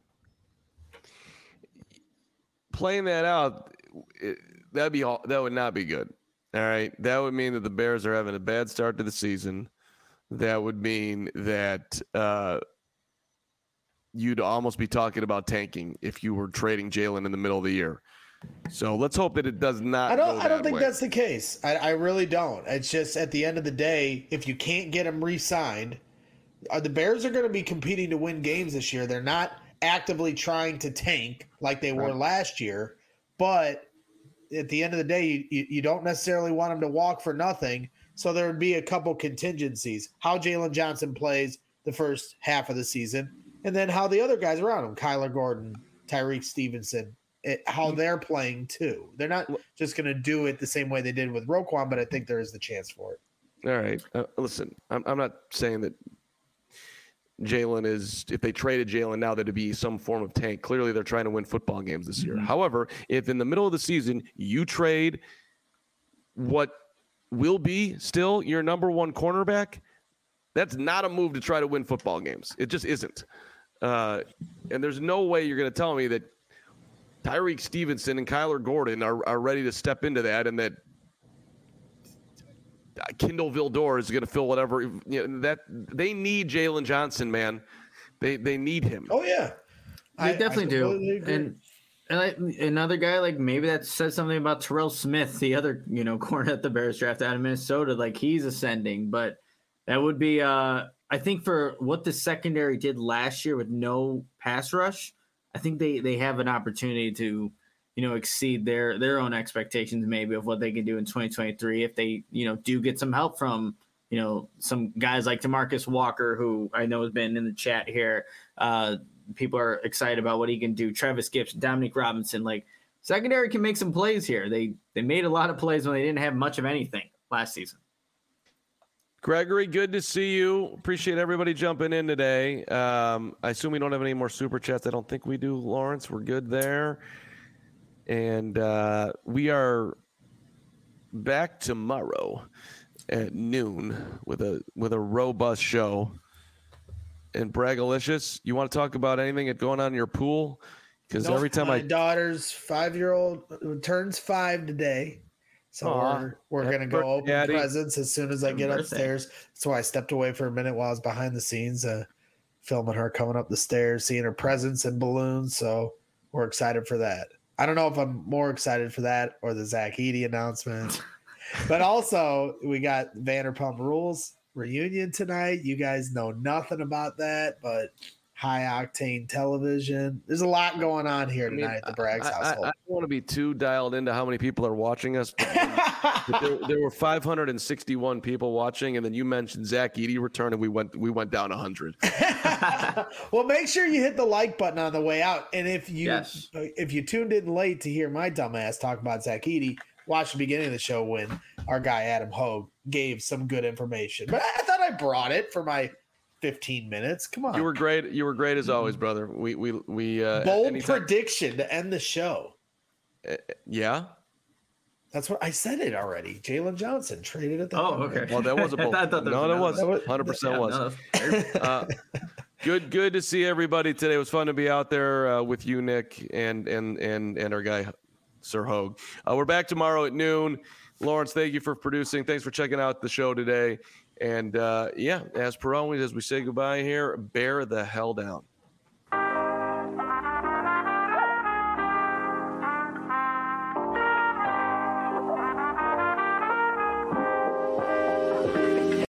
Playing that out, it, that'd be all, that would not be good. All right. That would mean that the Bears are having a bad start to the season. That would mean that, uh, you'd almost be talking about tanking if you were trading Jalen in the middle of the year. So let's hope that it does not. I don't. Go I don't that think way. that's the case. I, I really don't. It's just at the end of the day, if you can't get him re-signed, uh, the Bears are going to be competing to win games this year. They're not actively trying to tank like they were Right. last year. But at the end of the day, you, you, you don't necessarily want him to walk for nothing. So there would be a couple contingencies: how Jalen Johnson plays the first half of the season, and then how the other guys around him, Kyler Gordon, Tyreek Stevenson, it, how they're playing too. They're not just going to do it the same way they did with Roquan, but I think there is the chance for it. All right. Uh, listen, I'm, I'm not saying that Jalen is, if they traded Jalen now, that'd be some form of tank. Clearly, they're trying to win football games this year. Mm-hmm. However, if in the middle of the season you trade what will be still your number one cornerback, that's not a move to try to win football games. It just isn't. Uh, and there's no way you're going to tell me that Tyrique Stevenson and Kyler Gordon are, are ready to step into that, and that Kindle Vildor is going to fill whatever. You know, that they need Jalen Johnson, man. They they need him. Oh yeah, they I, definitely I do. And and I, another guy, like, maybe that says something about Terrell Smith, the other, you know, corner at the Bears draft out of Minnesota. Like, he's ascending, but that would be, uh, I think, for what the secondary did last year with no pass rush, I think they, they have an opportunity to, you know, exceed their, their own expectations maybe of what they can do in twenty twenty-three if they, you know, do get some help from, you know, some guys like DeMarcus Walker, who I know has been in the chat here. Uh, people are excited about what he can do. Travis Gibson, Dominique Robinson, like, secondary can make some plays here. They they made a lot of plays when they didn't have much of anything last season. Gregory, good to see you. Appreciate everybody jumping in today. Um, I assume we don't have any more super chats. I don't think we do, Lawrence. We're good there. And uh, we are back tomorrow at noon with a with a robust show. And Bragalicious, you want to talk about anything that's going on in your pool? Because nope, every time my I daughter's five-year-old turns five today, so Aww, we're we're gonna go open Daddy. presents as soon as I get upstairs. That's why I stepped away for a minute while I was behind the scenes, uh, filming her coming up the stairs, seeing her presents and balloons. So we're excited for that. I don't know if I'm more excited for that or the Zach Edey announcement, but also we got Vanderpump Rules reunion tonight. You guys know nothing about that, but high octane television. There's a lot going on here tonight I mean, at the Braggs I, household. I, I don't want to be too dialed into how many people are watching us. But, but there, there were five hundred sixty-one people watching, and then you mentioned Zach Edey return, and we went we went down one hundred. Well, make sure you hit the like button on the way out, and if you yes. if you tuned in late to hear my dumbass talk about Zach Edey, watch the beginning of the show when our guy Adam Hogue gave some good information. But I thought I brought it for my fifteen minutes. Come on. You were great. You were great as always, brother. We we we uh bold anytime. prediction to end the show. Uh, yeah. That's what I said it already. Jalen Johnson traded at the Oh, okay. Well, that was a bold. I thought that no, was that was one hundred percent yeah, was. No, uh, good good to see everybody today. It was fun to be out there uh, with you, Nick, and and and and our guy Sir Hogue. Uh, we're back tomorrow at noon. Lawrence, thank you for producing. Thanks for checking out the show today. And, uh, yeah, as per always, as we say goodbye here, bear the hell down.